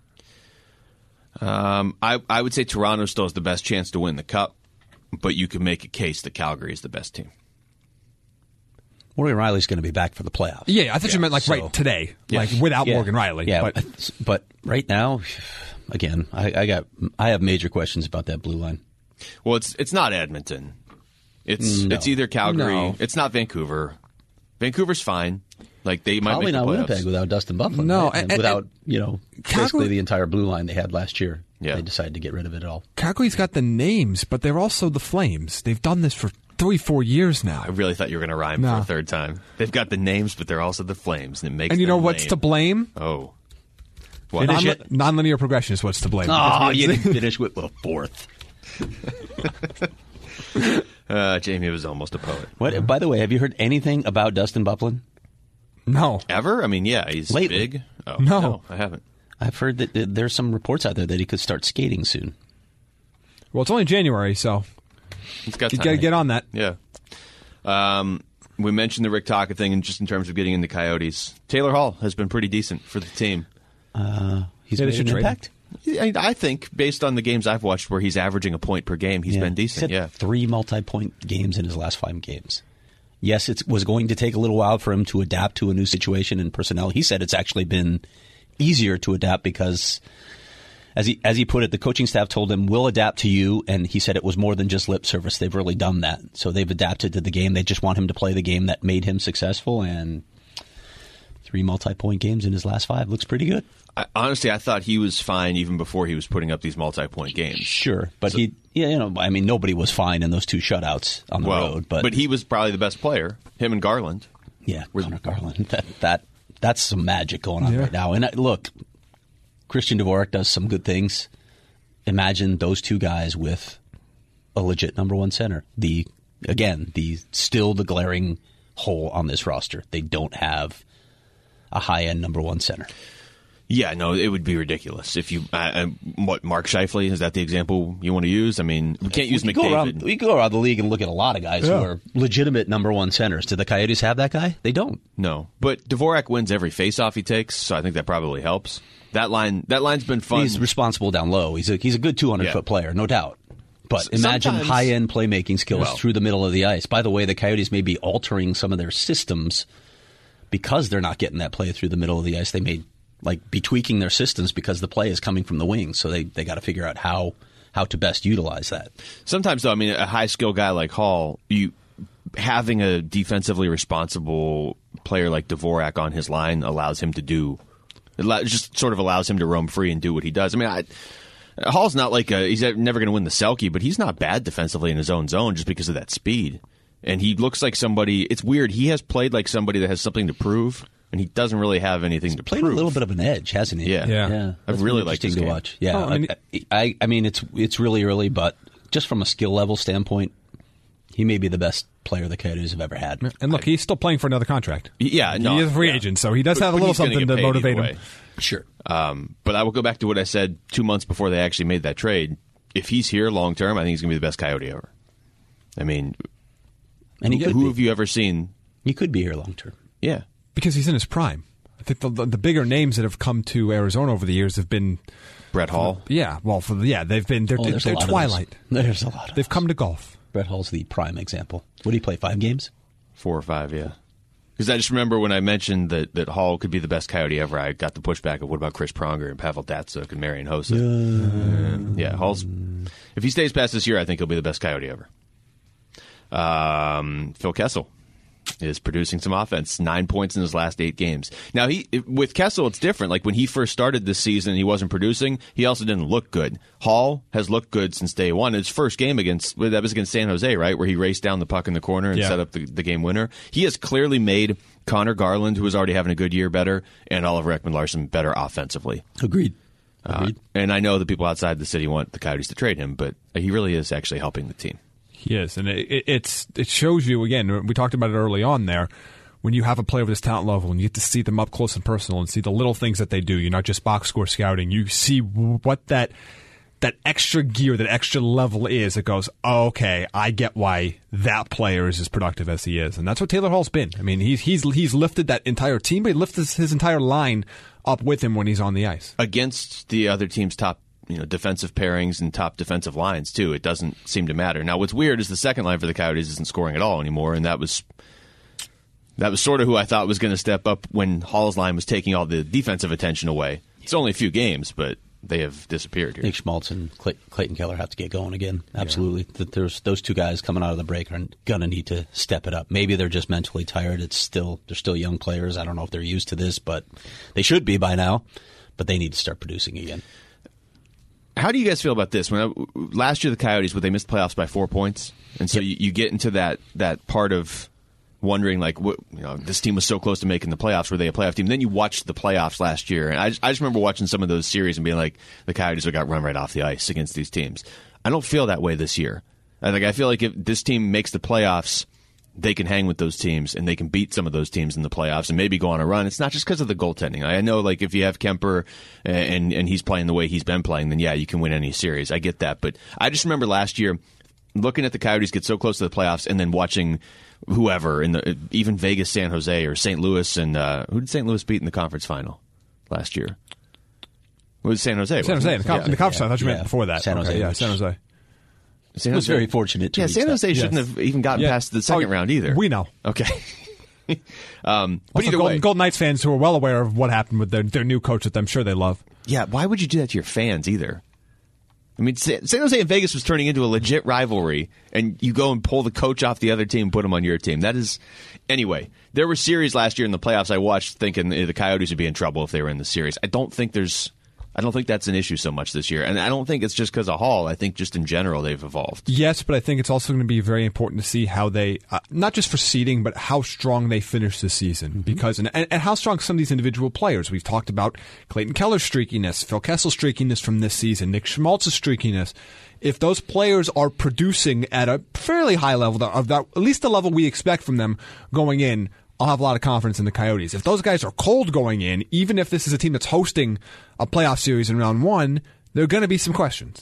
I would say Toronto still has the best chance to win the Cup, but you can make a case that Calgary is the best team. Morgan Riley's going to be back for the playoffs. Yeah, I thought you meant like right today, like without Yeah. Morgan Riley. Yeah, but but right now, again, I have major questions about that blue line. Well, it's not Edmonton. It's either Calgary. No. It's not Vancouver. Vancouver's fine. Like they might Probably make the not playoffs. Winnipeg without Dustin Byfuglien. No, right? And and- without Calgary- basically the entire blue line they had last year. Yeah. They decided to get rid of it all. Calgary's got the names, but they're also the Flames. They've done this for 3-4 years now. I really thought you were going to rhyme No. for a third time. They've got the names, but they're also the Flames, and it makes. And you know them what's lame. to blame? Oh, what? Finish it. Nonlinear progression is what's to blame. Oh, you didn't finish with a fourth. Jamie was almost a poet. What? By the way, have you heard anything about Dustin Byfuglien? No. Ever? I mean, yeah, he's Lately. big. Oh, No. I haven't. I've heard that there's some reports out there that he could start skating soon. Well, it's only January, so He's got you time. got to get on that. Yeah. We mentioned the Rick Taka thing, and just in terms of getting into Coyotes, Taylor Hall has been pretty decent for the team. He's Yeah, they made should an trade him. impact. I think, based on the games I've watched, where he's averaging a point per game, he's been decent. He's had Yeah. 3 multi-point games in his last 5 games. Yes, it was going to take a little while for him to adapt to a new situation and personnel. He said it's actually been easier to adapt because, as he put it, the coaching staff told him, we'll adapt to you, and he said it was more than just lip service. They've really done that. So they've adapted to the game. They just want him to play the game that made him successful, and 3 multi-point games in his last 5 looks pretty good. Honestly, I thought he was fine even before he was putting up these multi-point games. Sure, but nobody was fine in those 2 shutouts on the road. But he was probably the best player, him and Garland. Yeah, Connor Garland. That That's some magic going on right now. And look, Christian Dvorak does some good things. Imagine those two guys with a legit number one center. The glaring hole on this roster. They don't have a high-end number one center. Yeah, no, it would be ridiculous if you. Mark Scheifele, is that the example you want to use? I mean, we can't use McDavid. We go around the league and look at a lot of guys who are legitimate number one centers. Do the Coyotes have that guy? They don't. No, but Dvorak wins every faceoff he takes, so I think that probably helps. That line's been fun. He's responsible down low. He's a good 200-foot player, no doubt. But imagine high-end playmaking skills through the middle of the ice. By the way, the Coyotes may be altering some of their systems because they're not getting that play through the middle of the ice. They may be tweaking their systems because the play is coming from the wings. So they got to figure out how to best utilize that. Sometimes, though, I mean, a high-skill guy like Hall, having a defensively responsible player like Dvorak on his line allows him to allows him to roam free and do what he does. I mean, Hall's not he's never going to win the Selke, but he's not bad defensively in his own zone just because of that speed. And he looks like somebody. It's weird. He has played like somebody that has something to prove, and he doesn't really have anything to prove. Played a little bit of an edge, hasn't he? Yeah. I've really liked this game to watch. Yeah, I mean, it's really early, but just from a skill level standpoint, he may be the best player the Coyotes have ever had. And look, he's still playing for another contract. Yeah, no, he is a free agent, so he does have a little something to motivate him. Sure. But I will go back to what I said 2 months before they actually made that trade. If he's here long term, I think he's going to be the best Coyote ever. I mean, and who have you ever seen? He could be here long term. Yeah. Because he's in his prime. I think the bigger names that have come to Arizona over the years have been Brett Hall. They've been they're twilight. There's a lot. They've come to golf. Brett Hall's the prime example. What did he play? 5 games? 4 or 5, yeah. Because I just remember when I mentioned that Hall could be the best Coyote ever, I got the pushback of what about Chris Pronger and Pavel Datsyuk and Marian Hossa. Yeah, Hall's. If he stays past this year, I think he'll be the best Coyote ever. Phil Kessel is producing some offense. 9 points in his last 8 games. Now, with Kessel, it's different. Like when he first started this season, he wasn't producing. He also didn't look good. Hall has looked good since day one. His first game that was against San Jose, right, where he raced down the puck in the corner and set up the game winner. He has clearly made Connor Garland, who was already having a good year, better, and Oliver Ekman-Larsson better offensively. Agreed. And I know the people outside the city want the Coyotes to trade him, but he really is actually helping the team. He is, and it shows you, again, we talked about it early on there, when you have a player with this talent level and you get to see them up close and personal and see the little things that they do. You're not just box score scouting. You see what that extra gear, that extra level is. It goes, oh, okay, I get why that player is as productive as he is. And that's what Taylor Hall's been. I mean, he's lifted that entire team, but he lifted his entire line up with him when he's on the ice. Against the other team's top defensive pairings and top defensive lines, too. It doesn't seem to matter. Now, what's weird is the second line for the Coyotes isn't scoring at all anymore, and that was sort of who I thought was going to step up when Hall's line was taking all the defensive attention away. It's only a few games, but they have disappeared here. Nick Schmaltz and Clayton Keller have to get going again. Absolutely. Yeah. There's those two guys coming out of the break are going to need to step it up. Maybe they're just mentally tired. They're still young players. I don't know if they're used to this, but they should be by now. But they need to start producing again. How do you guys feel about this? Last year, the Coyotes, they missed playoffs by 4 points, and so you get into that part of wondering, this team was so close to making the playoffs. Were they a playoff team? Then you watched the playoffs last year, and I just remember watching some of those series and being like, the Coyotes got run right off the ice against these teams. I don't feel that way this year. I feel like if this team makes the playoffs, they can hang with those teams and they can beat some of those teams in the playoffs and maybe go on a run. It's not just because of the goaltending. I know, if you have Kemper and he's playing the way he's been playing, then yeah, you can win any series. I get that. But I just remember last year looking at the Coyotes get so close to the playoffs and then watching whoever even Vegas, San Jose, or St. Louis, and who did St. Louis beat in the conference final last year? It was San Jose. San Jose in the conference final. I thought you meant before that. San Jose. San Jose. San Jose was very fortunate to reach San Jose shouldn't have even gotten past the second round either. We know. Okay. But either way, Golden Knights fans who are well aware of what happened with their new coach that I'm sure they love. Yeah, why would you do that to your fans either? I mean, San Jose and Vegas was turning into a legit rivalry, and you go and pull the coach off the other team and put him on your team. That is... Anyway, there were series last year in the playoffs I watched thinking the Coyotes would be in trouble if they were in the series. I don't think I don't think that's an issue so much this year. And I don't think it's just because of Hall. I think just in general they've evolved. Yes, but I think it's also going to be very important to see how they, not just for seeding, but how strong they finish this season. Because and how strong some of these individual players. We've talked about Clayton Keller's streakiness, Phil Kessel's streakiness from this season, Nick Schmaltz's streakiness. If those players are producing at a fairly high level, of that, at least the level we expect from them going in, I'll have a lot of confidence in the Coyotes. If those guys are cold going in, even if this is a team that's hosting a playoff series in round one, there are going to be some questions.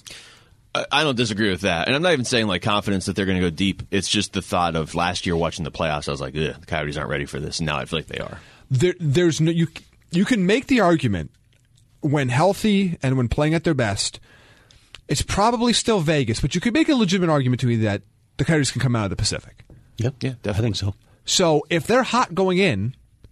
I don't disagree with that. And I'm not even saying like confidence that they're going to go deep. It's just the thought of last year watching the playoffs, I was like, the Coyotes aren't ready for this. And now I feel like they are. There's no, you can make the argument when healthy and when playing at their best, it's probably still Vegas, but you could make a legitimate argument to me that the Coyotes can come out of the Pacific. Yep. Yeah, definitely. I think so. So if they're hot going in,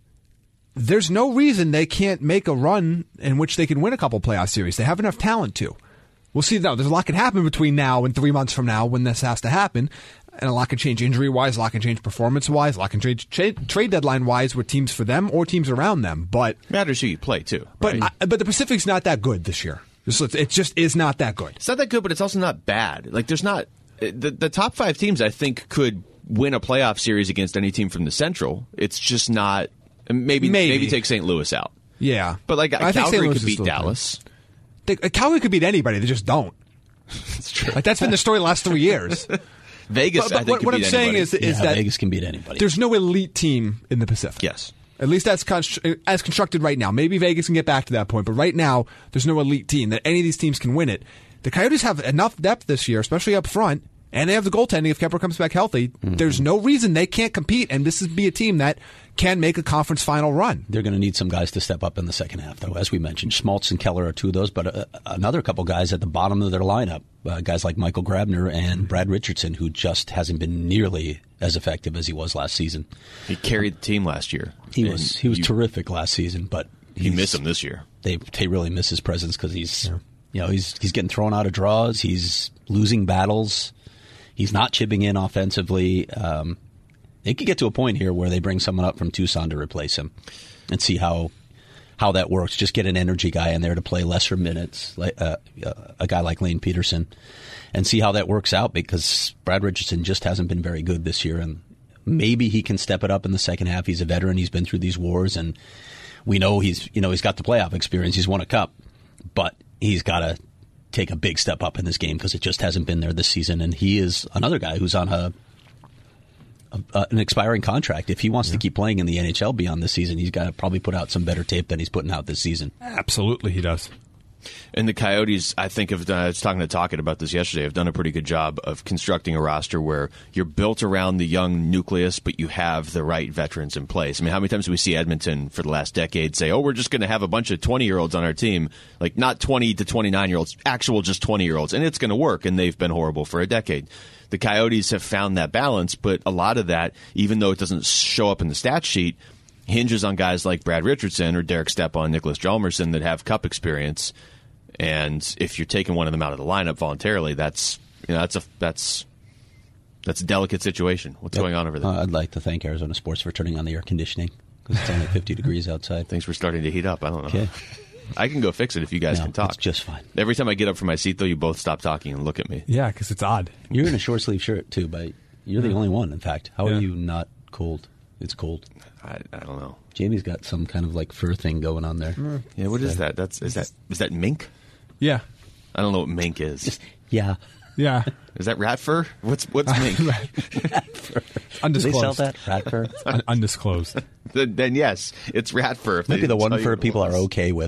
there's no reason they can't make a run in which they can win a couple playoff series. They have enough talent to. We'll see. Now, there's a lot can happen between now and 3 months from now when this has to happen. And a lot can change injury-wise, a lot can change performance-wise, a lot can change trade deadline-wise with teams for them or teams around them. But matters who you play, too. But right? But the Pacific's not that good this year. It just is not that good. It's not that good, but it's also not bad. Like, there's not... The top 5 teams, I think, could win a playoff series against any team from the Central. It's just not... Maybe take St. Louis out. Yeah. But, like, Calgary could beat Dallas. Calgary could beat anybody. They just don't. That's true. Like, that's been the story the last 3 years. Vegas, I think, what I'm saying anybody. is that Vegas can beat anybody. There's no elite team in the Pacific. Yes. At least that's as constructed right now. Maybe Vegas can get back to that point, but right now, there's no elite team that any of these teams can win it. The Coyotes have enough depth this year, especially up front, and they have the goaltending if Kemper comes back healthy. Mm-hmm. There's no reason they can't compete, and this would be a team that can make a conference final run. They're going to need some guys to step up in the second half, though. As we mentioned, Schmaltz and Keller are 2 of those, but another couple guys at the bottom of their lineup, guys like Michael Grabner and Brad Richardson, who just hasn't been nearly as effective as he was last season. He carried the team last year. He was terrific last season, but you miss him this year. They really miss his presence because he's getting thrown out of draws. He's losing battles. He's not chipping in offensively. They could get to a point here where they bring someone up from Tucson to replace him and see how that works. Just get an energy guy in there to play lesser minutes, like a guy like Lane Peterson, and see how that works out, because Brad Richardson just hasn't been very good this year, and maybe he can step it up in the second half. He's a veteran. He's been through these wars, and we know he's got the playoff experience. He's won a cup, but he's got to take a big step up in this game because it just hasn't been there this season. And he is another guy who's on an expiring contract. If he wants to keep playing in the NHL beyond this season, he's got to probably put out some better tape than he's putting out this season. Absolutely, he does. And the Coyotes, I think, I was talking to Tocchet about this yesterday, have done a pretty good job of constructing a roster where you're built around the young nucleus, but you have the right veterans in place. I mean, how many times do we see Edmonton for the last decade say, we're just going to have a bunch of 20-year-olds on our team, like not 20 to 29-year-olds, actual just 20-year-olds, and it's going to work, and they've been horrible for a decade. The Coyotes have found that balance, but a lot of that, even though it doesn't show up in the stat sheet, hinges on guys like Brad Richardson or Derek Stepan, Nicholas Hjalmarsson that have cup experience. And if you're taking one of them out of the lineup voluntarily, that's a delicate situation. What's going on over there? I'd like to thank Arizona Sports for turning on the air conditioning because it's only 50 degrees outside. Things were starting to heat up. I don't know. Okay. I can go fix it if you guys can talk. It's just fine. Every time I get up from my seat, though, you both stop talking and look at me. Yeah, because it's odd. You're in a short sleeve shirt too, but you're the only one. In fact, how are you not cold? It's cold. I don't know. Jamie's got some kind of like fur thing going on there. Yeah, what is that? Is that mink? Yeah. I don't know what mink is. Yeah. Is that rat fur? What's mink? Rat fur. Undisclosed. Do they sell that? Rat fur? Undisclosed. Then yes, it's rat fur. Maybe the one fur people are okay with.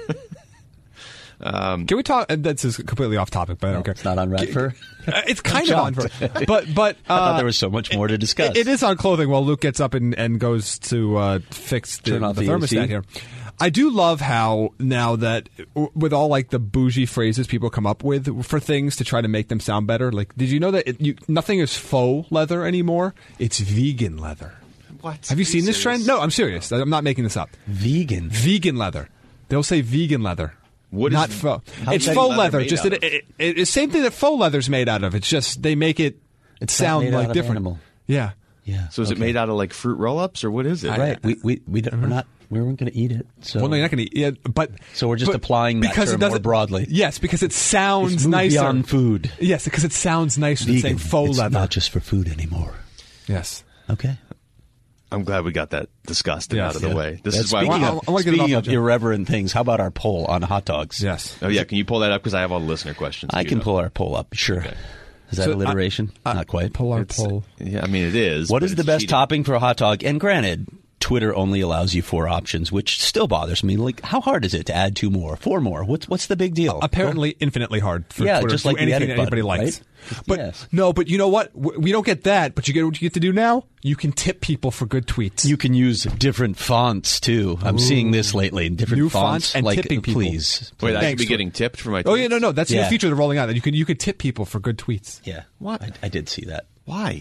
Can we talk? This is completely off topic, but I don't care. It's not on rat fur. It's kind of on fur, but I thought there was so much more to discuss. It is on clothing. While Luke gets up and goes to fix the thermostat here. I do love how now that with all like the bougie phrases people come up with for things to try to make them sound better. Like, did you know that nothing is faux leather anymore? It's vegan leather. What? Have you seen this trend? No, I'm serious. I'm not making this up. Vegan leather. They'll say vegan leather. What not is faux? It's faux leather. Just it's the same thing that faux leather's made out of. It's just they make it sound like different. Animal. Yeah. So is it made out of like fruit roll-ups or what is it? Right. We're not We weren't going to eat it. So. Well, no, you're not going to eat it, but... So we're just applying that term more broadly. Yes, because it sounds it's moved nicer. beyond food. Yes, because it sounds nicer than saying faux it's leather. not just for food anymore. Yes. Okay. I'm glad we got that discussed and out of the way. This is why. Speaking of irreverent things, how about our poll on hot dogs? Yes. Oh yeah, can you pull that up because I have all the listener questions. I can pull our poll up. Sure. Okay. Is that alliteration? Not quite. Pull our poll. Yeah, I mean it is. What is the best cheating. topping for a hot dog? And granted, Twitter only allows you 4 options, which still bothers me. Like, how hard is it to add 2 more, 4 more? What's the big deal? Apparently, infinitely hard for Twitter just to do like the anything edit that anybody button, likes. right? But Yes. no, but you know what? We don't get that. But you get what you get to do now. You can tip people for good tweets. You can use different fonts too. I'm seeing this lately. Different New fonts, fonts and like, tipping people. please. Wait, I should Thanks, be getting tipped for my. Oh tweets? yeah, no, that's the new Yeah. feature they're rolling out. That you could tip people for good tweets Yeah. What? I did see that. Why?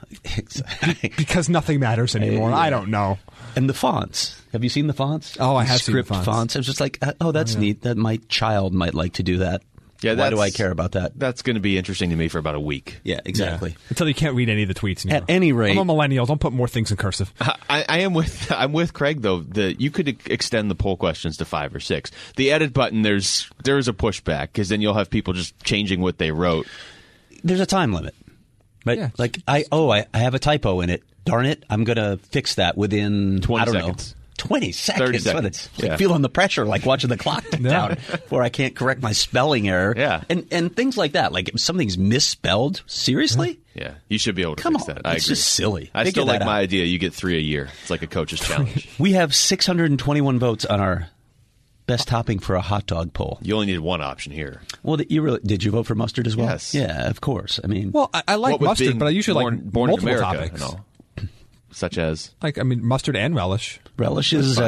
because nothing matters anymore. Yeah. I don't know. And the fonts. Have you seen the fonts? Oh, I The have seen the script fonts. I was just like, oh, that's neat. That my child might like to do that. Yeah, Why do that's- I care about that? That's going to be interesting to me for about a week. Yeah, exactly. Yeah. Until you can't read any of the tweets anymore. At any rate- I'm a millennial. Don't put more things in cursive. I'm with Craig though. You could extend the poll questions to 5 or 6. The edit button, there's a pushback because then you'll have people just changing what they wrote. There's a time limit. Right? Yeah. Like, I have a typo in it. Darn it. I'm going to fix that within 20 I don't seconds. know. 20 seconds. 30 seconds. It's like Yeah. feeling the pressure, like watching the clock tick down before I can't correct my spelling error. Yeah. And things like that. Like if something's misspelled, seriously? Yeah, you should be able to Come fix on. that. I It's agree. just silly. I Figure still like that my out. idea. You get 3 a year. It's like a coach's challenge. We have 621 votes on our best topping for a hot dog poll. You only need one option here. Well, did you vote for mustard as well? Yes. Yeah, of course. I mean, Well, I like What with mustard, being but I usually like born in multiple America topics. and all. Such as Like, I mean, mustard and relish. relish is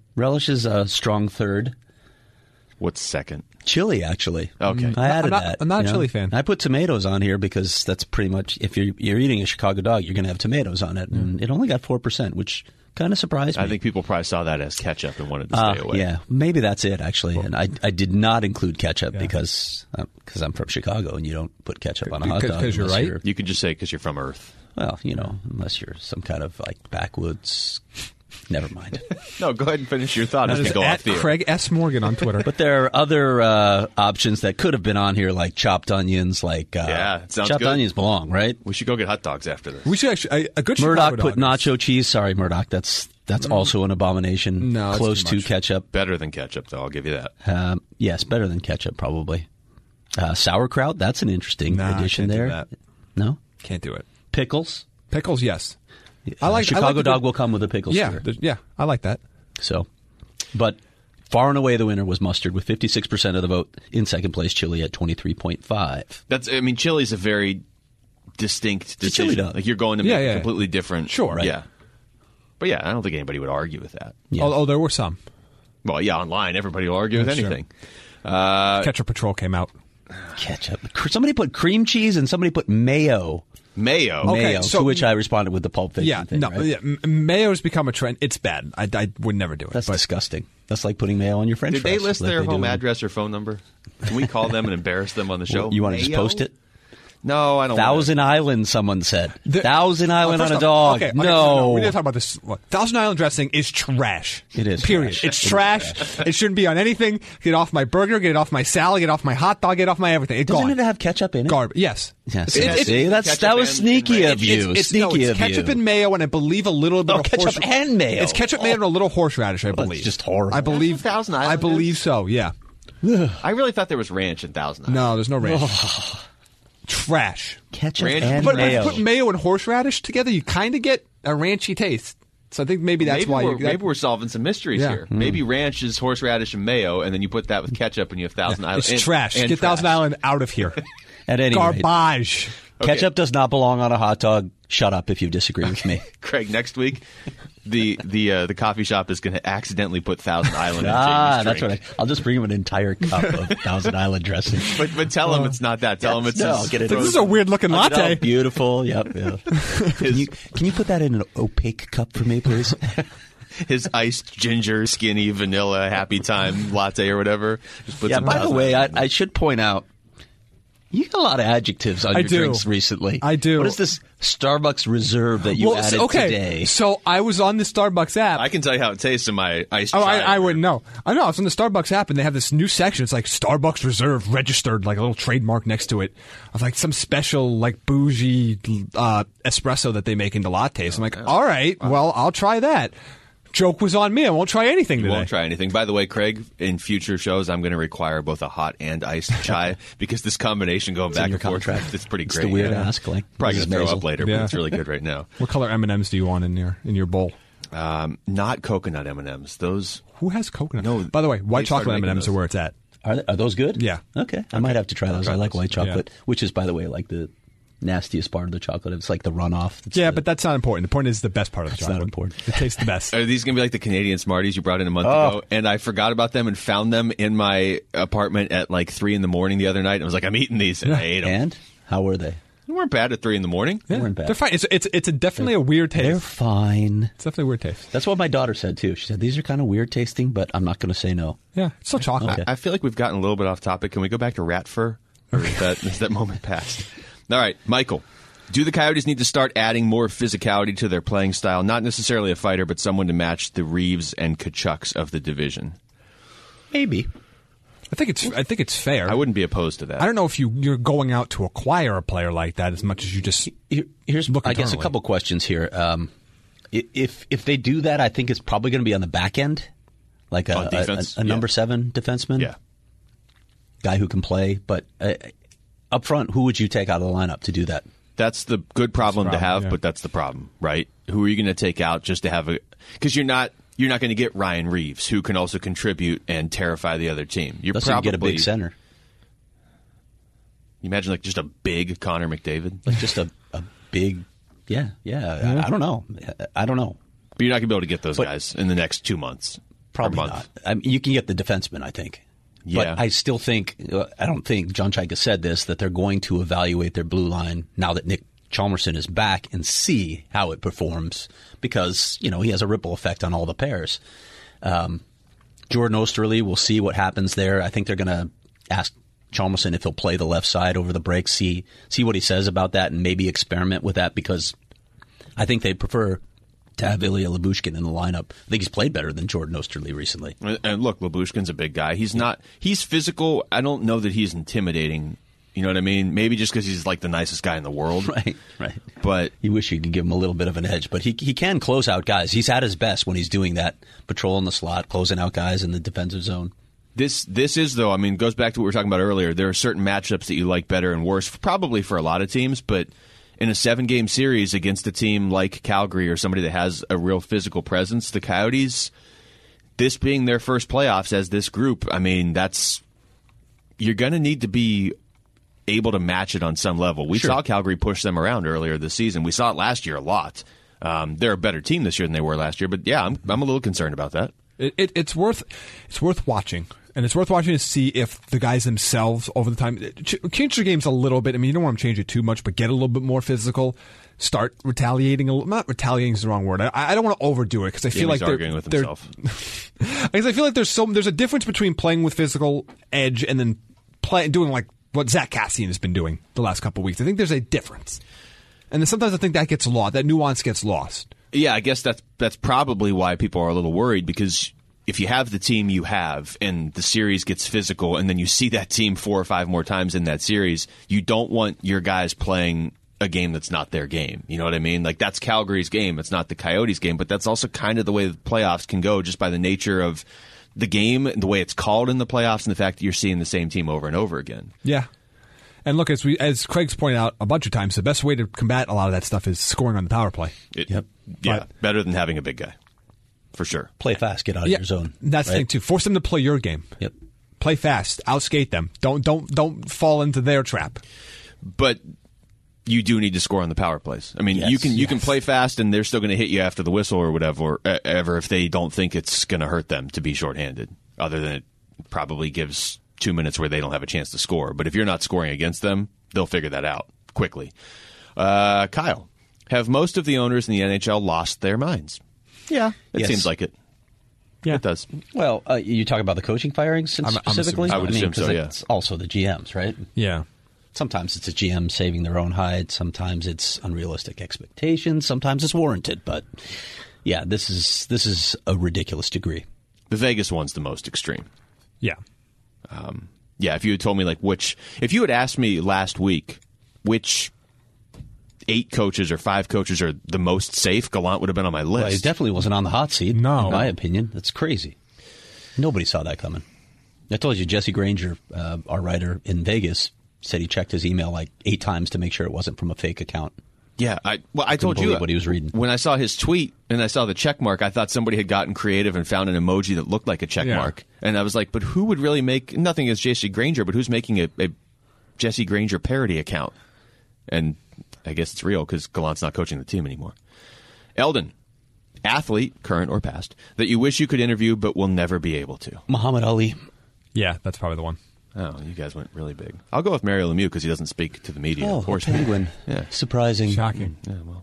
a strong third. what's second? Chili, actually. Okay. I added I'm not- that. I'm not a you know. chili fan. I put tomatoes on here because that's pretty much, if you're eating a Chicago dog, you're going to have tomatoes on it. And it only got 4%, which kind of surprised me. I think people probably saw that as ketchup and wanted to stay away. Yeah, maybe that's it, actually. And I did not include ketchup because I'm from Chicago and you don't put ketchup on a hot dog. Because you're unless right. You can just say because you're from Earth. Well, unless you're some kind of like backwoods. Never mind. No, go ahead and finish your thought as we That is go off at the air. Craig S. Morgan on Twitter. But there are other options that could have been on here, like chopped onions. Like Yeah, it sounds chopped good. onions belong, right? We should go get hot dogs after this. we should actually a good Murdoch Chicago put dog is- nacho cheese. Sorry, Murdoch. That's also an abomination. No, it's close too to much. ketchup. Better than ketchup, though. I'll give you that. Yes, better than ketchup probably. Sauerkraut. That's an interesting Nah, I addition can't do there. that. No Can't do it. pickles. Pickles, yes. I like Chicago I like the dog good- will come with the pickles. Yeah, too. yeah, I like that. So, but far and away the winner was mustard with 56% of the vote. In second place, chili at 23.5. I mean, chili's a very distinct a chili decision. dog. Like you're going to Yeah, make yeah. a completely different. Sure. Right. Yeah. But yeah, I don't think anybody would argue with that. Yeah. Oh, there were some. Well, yeah, online everybody will argue with Sure. anything. Ketchup Patrol came out. Ketchup. Somebody put cream cheese and somebody put mayo. Mayo. Okay, Mayo. so- to which I responded with the Pulp Fiction Yeah, thing. no, right? yeah, mayo's become a trend. It's bad. I would never do it. That's but disgusting. That's like putting mayo on your French Did fries. they list like their they home do. address or phone number? Can we call them and embarrass them on the show? You want to just Mayo? post it? No, I don't. Thousand Island, someone said. The- Thousand Island First on a off, dog. okay, no. we need to talk about this. Thousand Island dressing is trash. It is Period. trash. It's trash. It shouldn't be on anything. Get it off my burger. Get it off my salad. Get it off my hot dog. Get it off my everything. It's Doesn't gone. it have ketchup in it? Garbage. Yes. Yes. It's- See, that ketchup was and sneaky ranch. of you. It's Sneaky of ketchup you. and mayo, and I believe a little bit Oh, of ketchup and mayo. It's ketchup, mayo, and a little horseradish. I believe. just horrible. I believe. That's what Thousand Island I believe is? so. Yeah. I really thought there was ranch in Thousand Island. No, there's no ranch. Trash. Ketchup Ranch- and But mayo. if you put mayo and horseradish together, you kind of get a ranchy taste. So I think maybe that's maybe why. maybe we're solving some mysteries Yeah. here. Maybe ranch is horseradish and mayo, and then you put that with ketchup, and you have Thousand Island. It's and- trash. and Get Thousand trash. Island out of here. At any rate, Garbage. ketchup does not belong on a hot dog. Shut up if you disagree with me. Craig, next week, the coffee shop is going to accidentally put Thousand Island in Ah, Jamie's that's drink. right. I'll just bring him an entire cup of Thousand Island dressing. But tell him it's not that. Tell him it's No, his- I'll get it. This is a weird looking Look at latte. how beautiful. Yep. Yeah. Can you put that in an opaque cup for me, please? his iced ginger, skinny, vanilla, happy time latte or whatever. Just put Yeah. some By the Thousand way, Island in I should point out You got a lot of adjectives on I your do. drinks recently. I do. What is this Starbucks Reserve that you added today? So I was on the Starbucks app. I can tell you how it tastes in my iced Oh, chai. I wouldn't know. I know. I was on the Starbucks app, and they have this new section. It's like Starbucks Reserve registered, like a little trademark next to it of like some special, like bougie espresso that they make into lattes. I'm like, all right, well, I'll try that. Joke was on me. I won't try anything today. You won't try anything. By the way, Craig, in future shows, I'm going to require both a hot and iced chai because this combination going back in your and forth, contract. it's pretty It's great. the weird ask, like Probably going Mrs. to throw Maisel. up later, Yeah. but it's really good right now. What color M&Ms do you want in your bowl? Not coconut M&Ms. Those. Who has coconut? No, By the way, white they started chocolate making M&Ms those. are where it's at. Are those good? Yeah. Okay. I might have to try those. I like white chocolate, Yeah. which is, by the way, like the nastiest part of the chocolate. It's like the runoff. It's Yeah, the- but that's not important. The point is the best part of the That's chocolate. not important. It tastes the best. Are these going to be like the Canadian Smarties you brought in a month ago? And I forgot about them and found them in my apartment at like 3 a.m. the other night. And I was like, I'm eating these. And I ate them. And how were they? They weren't bad at 3 a.m. They weren't bad. They're fine. It's definitely a weird They're taste. fine. It's definitely a weird taste. That's what my daughter said too. She said these are kind of weird tasting, but I'm not going to say no. Yeah, it's still chocolate. Okay. I feel like we've gotten a little bit off topic. Can we go back to rat fur? Or is that moment past? All right, Michael. Do the Coyotes need to start adding more physicality to their playing style? Not necessarily a fighter, but someone to match the Reeves and Kachucks of the division. Maybe. I think it's fair. I wouldn't be opposed to that. I don't know if you're going out to acquire a player like that as much as you just Here's look I guess a internally. couple questions here. If they do that, I think it's probably going to be on the back end, like On defense? a number 7 defenseman, Yeah. guy who can play. But up front, who would you take out of the lineup to do that? That's the good problem to have, yeah. but that's the problem, right? Who are you going to take out just to have a... Because you're not going to get Ryan Reeves, who can also contribute and terrify the other team. You're Unless probably you get a big center, You imagine like just a big Connor McDavid. like just a big, yeah. I don't know. But you're not going to be able to get those guys in the next 2 months. Probably or month. not. I mean, you can get the defenseman, I think. Yeah. But I still think, I don't think John Chaika said this, that they're going to evaluate their blue line now that Nick Chalmerson is back and see how it performs because, he has a ripple effect on all the pairs. Jordan Osterley, we'll see what happens there. I think they're going to ask Chalmerson if he'll play the left side over the break, see what he says about that and maybe experiment with that because I think they prefer to have Ilya Lyubushkin in the lineup. I think he's played better than Jordan Osterley recently. And look, Lyubushkin's a big guy. He's physical. I don't know that he's intimidating. You know what I mean? Maybe just because he's like the nicest guy in the world. Right. But You wish you could give him a little bit of an edge, but he can close out guys. He's at his best when he's doing that, patrolling the slot, closing out guys in the defensive zone. this is, though, I mean, goes back to what we were talking about earlier. There are certain matchups that you like better and worse, probably for a lot of teams, but in a 7-game series against a team like Calgary or somebody that has a real physical presence, the Coyotes, this being their first playoffs as this group, I mean, you're going to need to be able to match it on some level. We saw Calgary push them around earlier this season. We saw it last year a lot. They're a better team this year than they were last year, but yeah, I'm a little concerned about that. It's worth watching, and it's worth watching to see if the guys themselves over the time change their games a little bit. I mean, you don't want them to change it too much, but get a little bit more physical. Start retaliating a little. Not retaliating is the wrong word. I don't want to overdo it because I feel like they're arguing with himself. Because I feel like there's a difference between playing with physical edge and then doing like what Zach Cassian has been doing the last couple of weeks. I think there's a difference, and then sometimes I think that gets lost. That nuance gets lost. Yeah, I guess that's probably why people are a little worried, because if you have the team you have and the series gets physical and then you see that team 4 or 5 more times in that series, you don't want your guys playing a game that's not their game. You know what I mean? Like, that's Calgary's game. It's not the Coyotes' game, but that's also kind of the way the playoffs can go just by the nature of the game, the way it's called in the playoffs, and the fact that you're seeing the same team over and over again. Yeah. And look, as Craig's pointed out a bunch of times, the best way to combat a lot of that stuff is scoring on the power play. Yep. Yeah, But- better than having a big guy, for sure. Play fast, get out of your zone. That's the right? thing too. Force them to play your game. Yep. Play fast. Outskate them. Don't fall into their trap. But you do need to score on the power plays. I mean, Yes, you can yes. play fast, and they're still going to hit you after the whistle or whatever, ever if they don't think it's going to hurt them to be shorthanded. Other than it probably gives 2 minutes where they don't have a chance to score. But if you're not scoring against them, they'll figure that out quickly. Kyle, have most of the owners in the NHL lost their minds? Yeah, it Yes. seems like it. Yeah. It does. Well, you talk about the coaching firings I'm specifically? assuming so. I would assume 'cause so, yeah. it's also the GMs, right? Yeah. Sometimes it's a GM saving their own hide. Sometimes it's unrealistic expectations. Sometimes it's warranted. But yeah, this is a ridiculous degree. The Vegas one's the most extreme. Yeah. Yeah, if you had told me if you had asked me last week which 8 coaches or 5 coaches are the most safe, Gallant would have been on my list. Well, he definitely wasn't on the hot seat. No. In my opinion, that's crazy. Nobody saw that coming. I told you, Jesse Granger, our writer in Vegas, said he checked his email like 8 times to make sure it wasn't from a fake account. Yeah, I told you believe what he was reading. When I saw his tweet and I saw the check mark, I thought somebody had gotten creative and found an emoji that looked like a check mark. And I was like, but who would really make, nothing against Jesse Granger, but who's making a Jesse Granger parody account? And I guess it's real because Gallant's not coaching the team anymore. Eldon, athlete, current or past, that you wish you could interview but will never be able to. Muhammad Ali. Yeah, that's probably the one. Oh, you guys went really big. I'll go with Mario Lemieux because he doesn't speak to the media. Oh, of course. Penguin. Yeah. Surprising. Shocking. Yeah, well.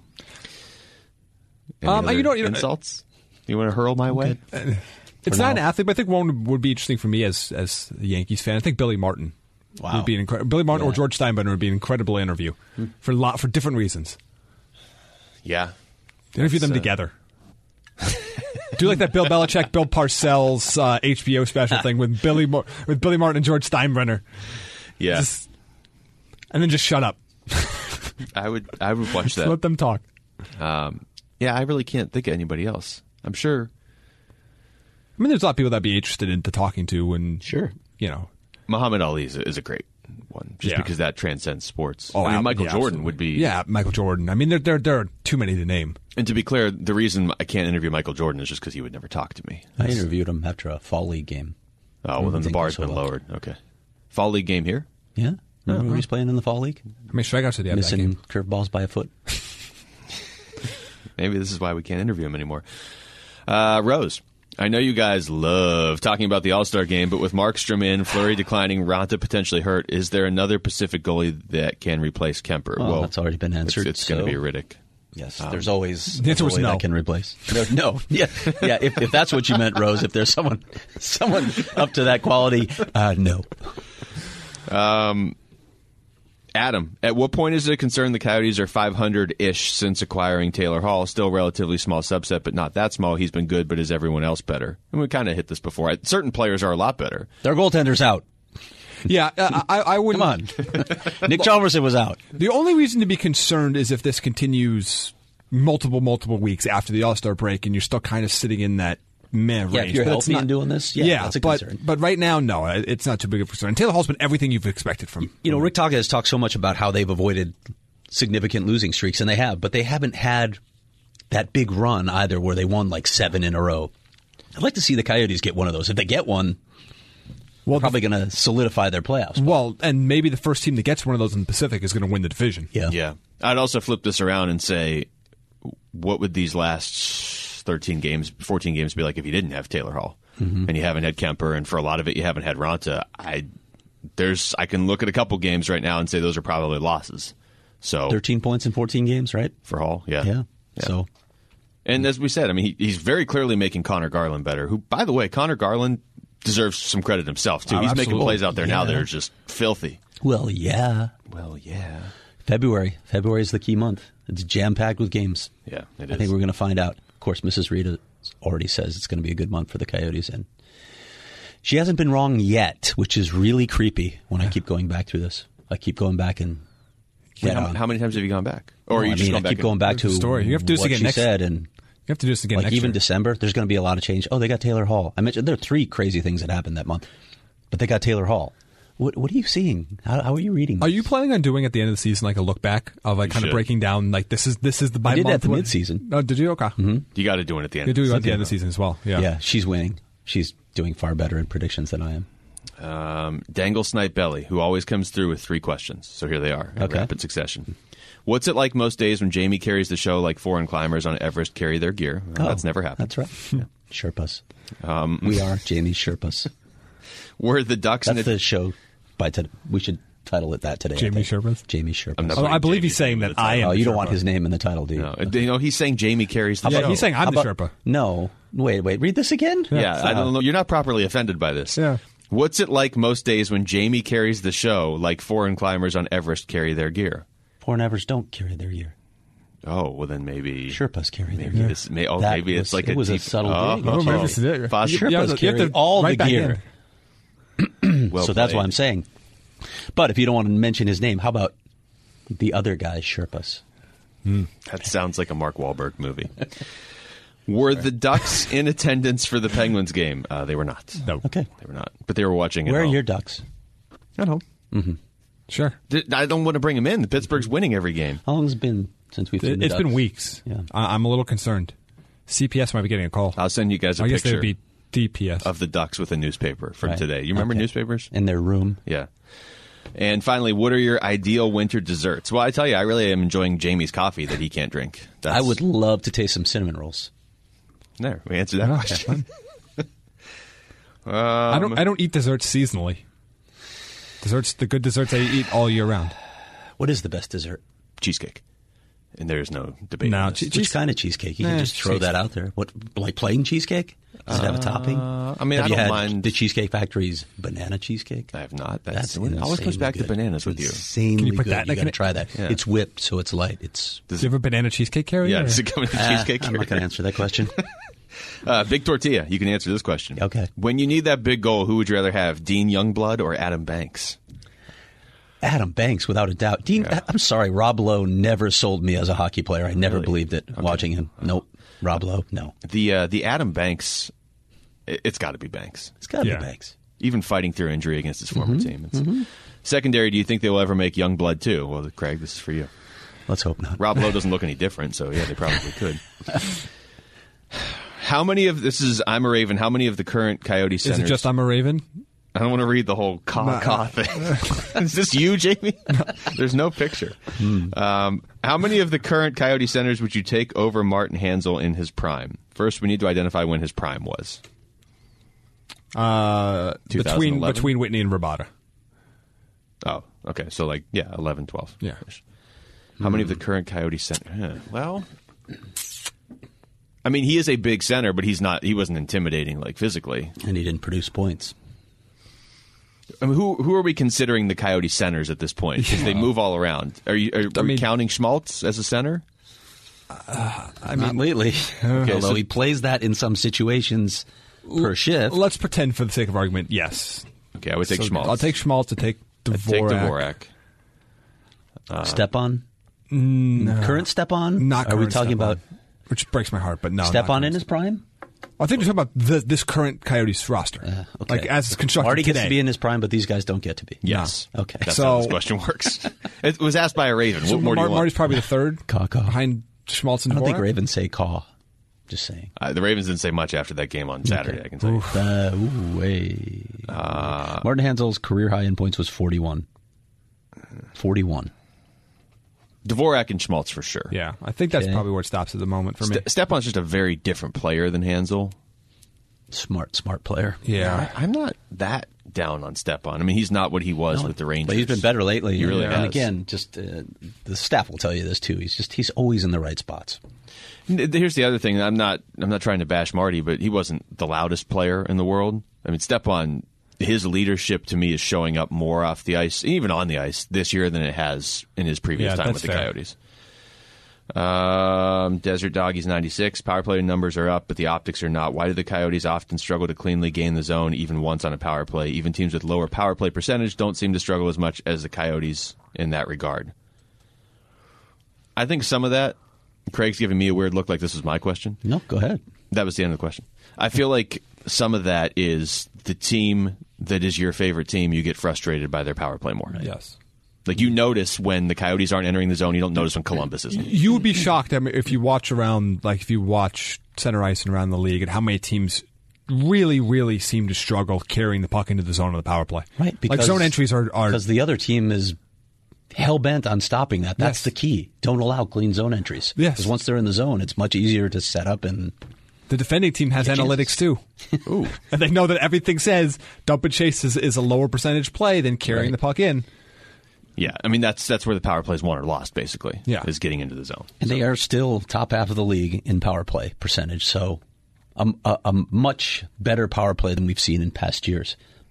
Any other insults you want to hurl my way? It's not an athlete, but I think one would be interesting for me as a Yankees fan. I think Billy Martin would be Billy Martin or George Steinbrenner would be an incredible interview for different reasons. Yeah. Interview them together. Do like that Bill Belichick, Bill Parcells HBO special thing with Billy Martin and George Steinbrenner. Yeah. And then just shut up. I would watch that. Let them talk. Yeah, I really can't think of anybody else. I'm sure. I mean, there's a lot of people that'd be interested in talking to, and Sure. Muhammad Ali is a great one, just because that transcends sports. Oh, I mean, Michael Jordan absolutely. would be. Yeah, Michael Jordan. I mean, there are too many to name. And to be clear, the reason I can't interview Michael Jordan is just because he would never talk to me. I interviewed him after a fall league game. Oh, well, then the Didn't bar's go so been well. lowered. Okay. Fall league game here? Yeah. Remember when he's playing in the fall league? How many strikeouts did he have that Missing game? curveballs by a foot. Maybe this is why we can't interview him anymore. Rose, I know you guys love talking about the All-Star game, but with Markstrom in, Fleury declining, Ronta potentially hurt, is there another Pacific goalie that can replace Kemper? Well, that's already been answered. It's going to be Riddick. Yes, there's always the answer a was goalie no. that can replace. No. Yeah. If that's what you meant, Rose, if there's someone up to that quality, no. Adam, at what point is it a concern the Coyotes are 500-ish since acquiring Taylor Hall? Still relatively small subset, but not that small. He's been good, but is everyone else better? And we kind of hit this before. Certain players are a lot better. Their goaltender's out. Yeah, I wouldn't. Come on. Nick Chalmers was out. The only reason to be concerned is if this continues multiple weeks after the All-Star break and you're still kind of sitting in that meh range. Yeah, if you're But it's healthy and doing this, that's a concern. But right now, no, it's not too big of a concern. And Taylor Hall's been everything you've expected from Rick Talka has talked so much about how they've avoided significant losing streaks, and they have, but they haven't had that big run either where they won like 7 in a row. I'd like to see the Coyotes get one of those. If they get one, they're probably going to solidify their playoffs. Well, and maybe the first team that gets one of those in the Pacific is going to win the division. Yeah. I'd also flip this around and say, what would these last 14 games be like if you didn't have Taylor Hall and you haven't had Kemper, and for a lot of it you haven't had Ronta? I can look at a couple games right now and say those are probably losses. So 13 points in 14 games, right? for Hall, yeah. So, And as we said, I mean, he's very clearly making Connor Garland better, who, by the way, Connor Garland deserves some credit himself, too. Oh, He's making absolutely. plays out there now that are just filthy. well, yeah. Well, yeah. February is the key month. It's jam-packed with games. Yeah, it I is. think we're going to find out. Of course, Mrs. Rita already says it's going to be a good month for the Coyotes, and she hasn't been wrong yet, which is really creepy when I keep going back through this. I keep going back and How many times have you gone back? Or are you just I going back keep going back to the story. You have to do this what again she next- said, and You have to do this again like next even year. December, there's going to be a lot of change. Oh, they got Taylor Hall. I mentioned there are 3 crazy things that happened that month, but they got Taylor Hall. What are you seeing? How are you reading? Are you planning on doing at the end of the season like a look back of like kind should. of breaking down like this is the by I did month that at the what- midseason. Oh, did you? Okay. You got to do it at the end. You do it of at the end of the season as well. Yeah. Yeah, she's winning. She's doing far better in predictions than I am. Dangle Snipe Belly, who always comes through with 3 questions. So here they are in Okay. rapid succession. What's it like most days when Jamie carries the show like foreign climbers on Everest carry their gear? Well, that's never happened. That's right. Sherpas. We are Jamie's Sherpas. Were the Ducks in That's the show. We should title it that today. I Jamie think. Sherpas? Jamie Sherpas. I'm not Oh, I putting believe Jamie's he's saying name in that the I title. am. Oh, the you don't want Sherpa. his name in the title, do you? No, he's saying Jamie carries the Yeah, show. he's saying I'm How the about- Sherpa. No. Wait. Read this again? Yeah, I don't know. You're not properly offended by this. Yeah. What's it like most days when Jamie carries the show like foreign climbers on Everest carry their gear? Foreign Evers don't carry their gear. Oh, well then maybe Sherpas carry their maybe gear. this maybe it's like it was a deep, subtle dig. Oh, maybe this is it. Possibly. Yeah, Sherpas you have carry to all the right back gear. Well So that's played. why I'm saying. But if you don't want to mention his name, how about the other guy, Sherpas? That sounds like a Mark Wahlberg movie. Were the Ducks in attendance for the Penguins game? They were not. No. Okay. They were not. But they were watching at Where are home. your Ducks? At home. Sure. I don't want to bring them in. The Pittsburgh's winning every game. How long has it been since we've seen the It's been Ducks? weeks. Yeah. I'm a little concerned. CPS might be getting a call. I'll send you guys a I guess picture they'd be DPS. of the Ducks with a newspaper from Right. today. You remember Okay. newspapers? In their room. Yeah. And finally, what are your ideal winter desserts? Well, I tell you, I really am enjoying Jamie's coffee that he can't drink. I would love to taste some cinnamon rolls. There, we answered that Oh, question. I don't eat desserts seasonally. The good desserts I eat all year round. What is the best dessert? Cheesecake. And there's no debate. No, on this. Which kind of cheesecake? You can Nah, just throw that out there. What, like plain cheesecake? Does it have a topping? I mean, have I you don't had mind. the Cheesecake Factory's banana cheesecake? I have not. That's It always comes insanely back good. to bananas with you. Insanely Can you put good. that in You a got to can- try that. Yeah. It's whipped, so it's light. It's Do you have a banana cheesecake carrier? Yeah, or- does it come in the cheesecake I'm not going carrier? to answer that question. Big Tortilla, you can answer this question. Okay. When you need that big goal, who would you rather have, Dean Youngblood or Adam Banks? Adam Banks, without a doubt. Dean, I'm sorry, Rob Lowe never sold me as a hockey player. I never Really? believed it watching him. Nope. Rob Lowe, no. The Adam Banks, it's got to be Banks. It's got to Yeah. be Banks. Even fighting through injury against his former Mm-hmm. team. Secondary, do you think they will ever make Youngblood too? Well, Craig, this is for you. Let's hope not. Rob Lowe doesn't look any different, so yeah, they probably could. How many of this is I'm a Raven? How many of the current Coyote Is centers? it just I'm a Raven? I don't want to read the whole caw thing. Is this you, Jamie? There's no picture. How many of the current Coyote centers would you take over Martin Hansel in his prime? First, we need to identify when his prime was. 2011? Between Whitney and Rabada. Oh, okay. So, 11, 12. Yeah. How many of the current Coyote centers? Well, I mean, he is a big center, but he wasn't intimidating, physically. And he didn't produce points. I mean, who are we considering the Coyote centers at this point? Because they move all around. Are we counting Schmaltz as a center? Not lately. Although so- he plays that in some situations per shift. Let's pretend for the sake of argument, yes. Okay, I would take So Schmaltz. I'll take Schmaltz to take Dvorak. I'd take Dvorak. Stepan? Current Stepan? Not Are we current talking Stepan, about which breaks my heart, but no. not Stepan in current. his prime? I think we're talking about this current Coyotes roster. Okay. As it's constructed Marty today. gets to be in his prime, but these guys don't get to be. Yes. Okay. That's So- how this question works. It was asked by a Raven. So What more do you want? Marty's probably the third Caw. behind Schmaltz and I don't think Dvorak? Ravens say caw. Just saying. The Ravens didn't say much after that game on Saturday, I can tell you. Martin Hansel's career high in points was 41. 41. Dvorak and Schmaltz for sure. Yeah, I think that's Okay. probably where it stops at the moment for me. Stepan's just a very different player than Hansel. Smart player. Yeah. I'm not that down on Stepan. I mean, he's not what he was with the Rangers. But he's been better lately. He really And has. again, just the staff will tell you this too. He's always in the right spots. Here's the other thing. I'm not trying to bash Marty, but he wasn't the loudest player in the world. I mean, Stepan, his leadership to me is showing up more off the ice, even on the ice this year than it has in his previous Yeah, time that's with the fair. Coyotes. Desert Doggies 96. Power play numbers are up, but the optics are not. Why do the Coyotes often struggle to cleanly gain the zone even once on a power play? Even teams with lower power play percentage don't seem to struggle as much as the Coyotes in that regard. I think some of that, Craig's giving me a weird look like this was my question. No, go ahead. That was the end of the question. I feel like some of that is the team that is your favorite team, you get frustrated by their power play more. Yes. Like you notice when the Coyotes aren't entering the zone, you don't notice when Columbus isn't. You would be shocked if you watch center ice and around the league at how many teams really, really seem to struggle carrying the puck into the zone of the power play. Right. Like zone entries are because the other team is hell-bent on stopping that. That's Yes. the key. Don't allow clean zone entries. Yes. Because once they're in the zone, it's much easier to set up and the defending team has analytics too. Ooh. And they know that everything says dump and chase is a lower percentage play than carrying Right. the puck in. Yeah, I mean that's where the power plays won or lost, basically. Yeah. Is getting into the zone. And they are still top half of the league in power play percentage, so a much better power play than we've seen in past years.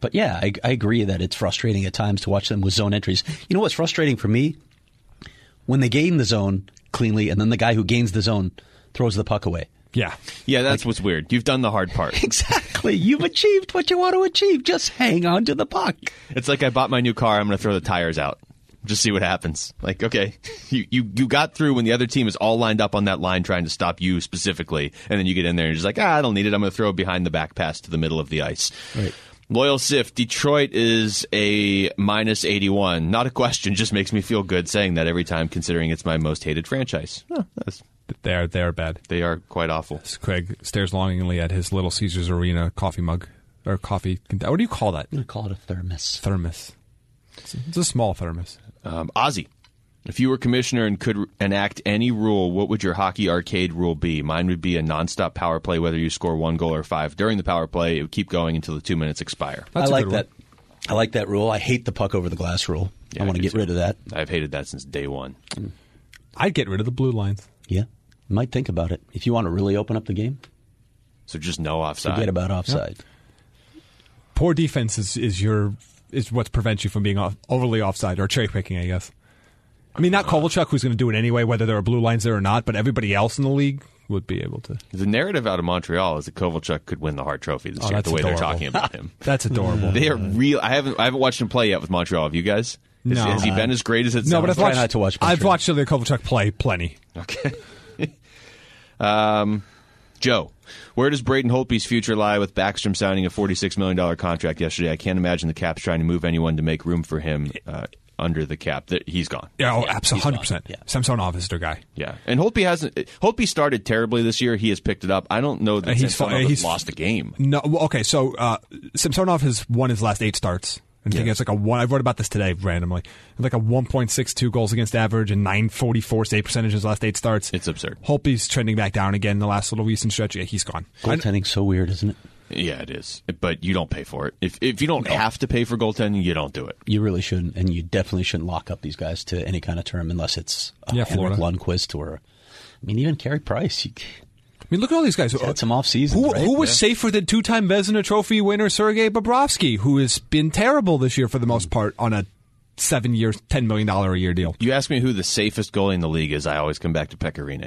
But yeah, I agree that it's frustrating at times to watch them with zone entries. You know what's frustrating for me? When they gain the zone cleanly, and then the guy who gains the zone throws the puck away. Yeah. Yeah, that's what's weird. You've done the hard part. Exactly. You've achieved what you want to achieve. Just hang on to the puck. It's like I bought my new car. I'm going to throw the tires out. Just see what happens. Like, okay, you got through when the other team is all lined up on that line trying to stop you specifically, and then you get in there and you're just like, I don't need it. I'm going to throw it behind the back pass to the middle of the ice. Right. Loyal Sif, Detroit is a minus 81. Not a question, just makes me feel good saying that every time, considering it's my most hated franchise. Oh, They're bad. they are quite awful. Craig stares longingly at his Little Caesars Arena coffee mug. Or coffee. What do you call that? I'm going to call it a thermos. Thermos. It's a small thermos. Ozzy, if you were commissioner and could enact any rule, what would your hockey arcade rule be? Mine would be a nonstop power play, whether you score 1 goal or 5. During the power play, it would keep going until the 2 minutes expire. That's I like a good that. I like that rule. I hate the puck over the glass rule. Yeah, I want to do get too. rid of that. I've hated that since day one. I'd get rid of the blue lines. Yeah. Might think about it. If you want to really open up the game, So just no offside. forget about offside. Poor defense is what prevents you from being overly offside or cherry picking, I guess. I mean, not Kovalchuk, who's going to do it anyway, whether there are blue lines there or not, but everybody else in the league would be able to. The narrative out of Montreal is that Kovalchuk could win the Hart Trophy this year. That's The way adorable. they're talking about him, That's adorable. they are real. I haven't watched him play yet with Montreal. Have you guys? No. Has he been as great as it sounds? No, but I've Try watched, not to watch I've Montreal. watched Ilya Kovalchuk play plenty. Okay. Joe, where does Braden Holtby's future lie with Backstrom signing a $46 million contract yesterday? I can't imagine the Caps trying to move anyone to make room for him under the cap. He's gone. Yeah, Yeah, absolutely, he's gone. 100%. Yeah. Samsonov is their guy. Yeah, and Holtby started terribly this year. He has picked it up. I don't know that Samsonov has lost a game. No, well, okay, so Samsonov has won his last 8 starts. I think it's like a one. I wrote about this today randomly. Like a 1.62 goals against average and 944 save percentage in his last 8 starts. It's absurd. Holtby's trending back down again in the last little recent stretch. Yeah, he's gone. Goaltending's so weird, isn't it? Yeah, it is. But you don't pay for it. If you don't have to pay for goaltending, you don't do it. You really shouldn't, and you definitely shouldn't lock up these guys to any kind of term unless it's Yeah, Henrik Florida. Lundqvist or, I mean, even Carey Price. I mean, look at all these guys. He's had some off season. Who was safer than 2-time Vezina Trophy winner Sergei Bobrovsky, who has been terrible this year for the most part on a 7-year, $10 million a year deal? You ask me who the safest goalie in the league is, I always come back to Pekka Rinne.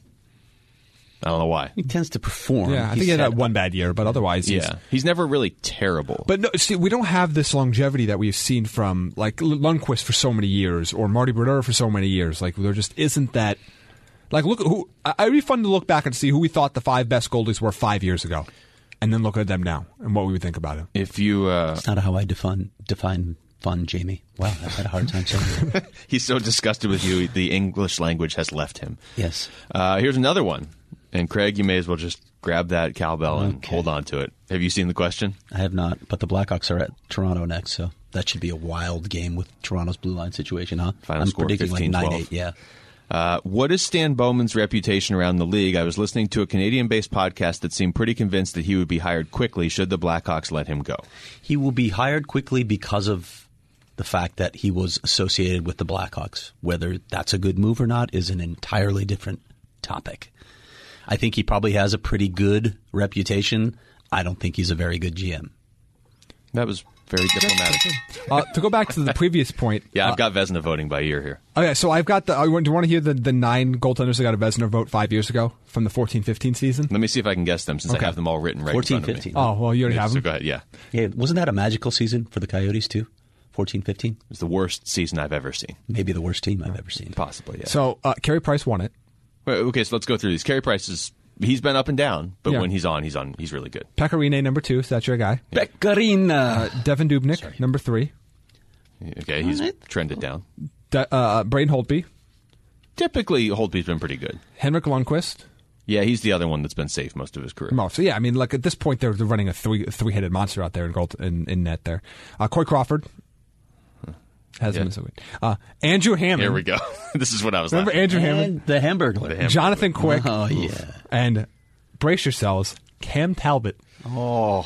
I don't know why. He tends to perform. Yeah, I think He's he had had that one bad year, but otherwise, He's never really terrible. But no, see, we don't have this longevity that we've seen from like Lundqvist for so many years or Marty Brodeur for so many years. Like there just isn't that. Like look, it'd be fun to look back and see who we thought the 5 best goalies were 5 years ago, and then look at them now and what we would think about them. If you, That's not how I define fun, Jamie. Wow, I've had a hard time saying that. he's so disgusted with you, the English language has left him. Yes. Here's another one. And Craig, you may as well just grab that cowbell and hold on to it. Have you seen the question? I have not, but the Blackhawks are at Toronto next, so that should be a wild game with Toronto's blue line situation, huh? Final I'm score predicting 15-12. like 9-8, yeah. What is Stan Bowman's reputation around the league? I was listening to a Canadian-based podcast that seemed pretty convinced that he would be hired quickly should the Blackhawks let him go. He will be hired quickly because of the fact that he was associated with the Blackhawks. Whether that's a good move or not is an entirely different topic. I think he probably has a pretty good reputation. I don't think he's a very good GM. That was very diplomatic. To go back to the previous point. Yeah, I've got Vezina voting by ear here. Okay, so I've got do you want to hear the 9 goaltenders that got a Vezina vote 5 years ago from the 14-15 season? Let me see if I can guess them since I Okay. have them all written right in front of me. 14-15. Oh, well, you already have So them. go ahead, yeah. Yeah, wasn't that a magical season for the Coyotes too? 14-15? It's the worst season I've ever seen. Maybe the worst team I've ever seen. Possibly, yeah. So Carey Price won it. Wait, okay, so let's go through these. Carey Price he's been up and down, but Yeah. when he's on, he's really good. Pekka Rinne, number 2, so that's your guy. Pekkarina. Devin Dubnyk, number 3. Okay, he's trended down. Braden Holtby. Typically, Holtby's been pretty good. Henrik Lundqvist. Yeah, he's the other one that's been safe most of his career. So yeah, I mean, like at this point, they're running a three-headed monster out there in net there. Corey Crawford hasn't been so good. Andrew Hammond. Here we go. This is what I was Remember laughing at. Andrew Hammond? And the Hamburglar. Jonathan Quick. Oh, yeah. And brace yourselves, Cam Talbot. Oh.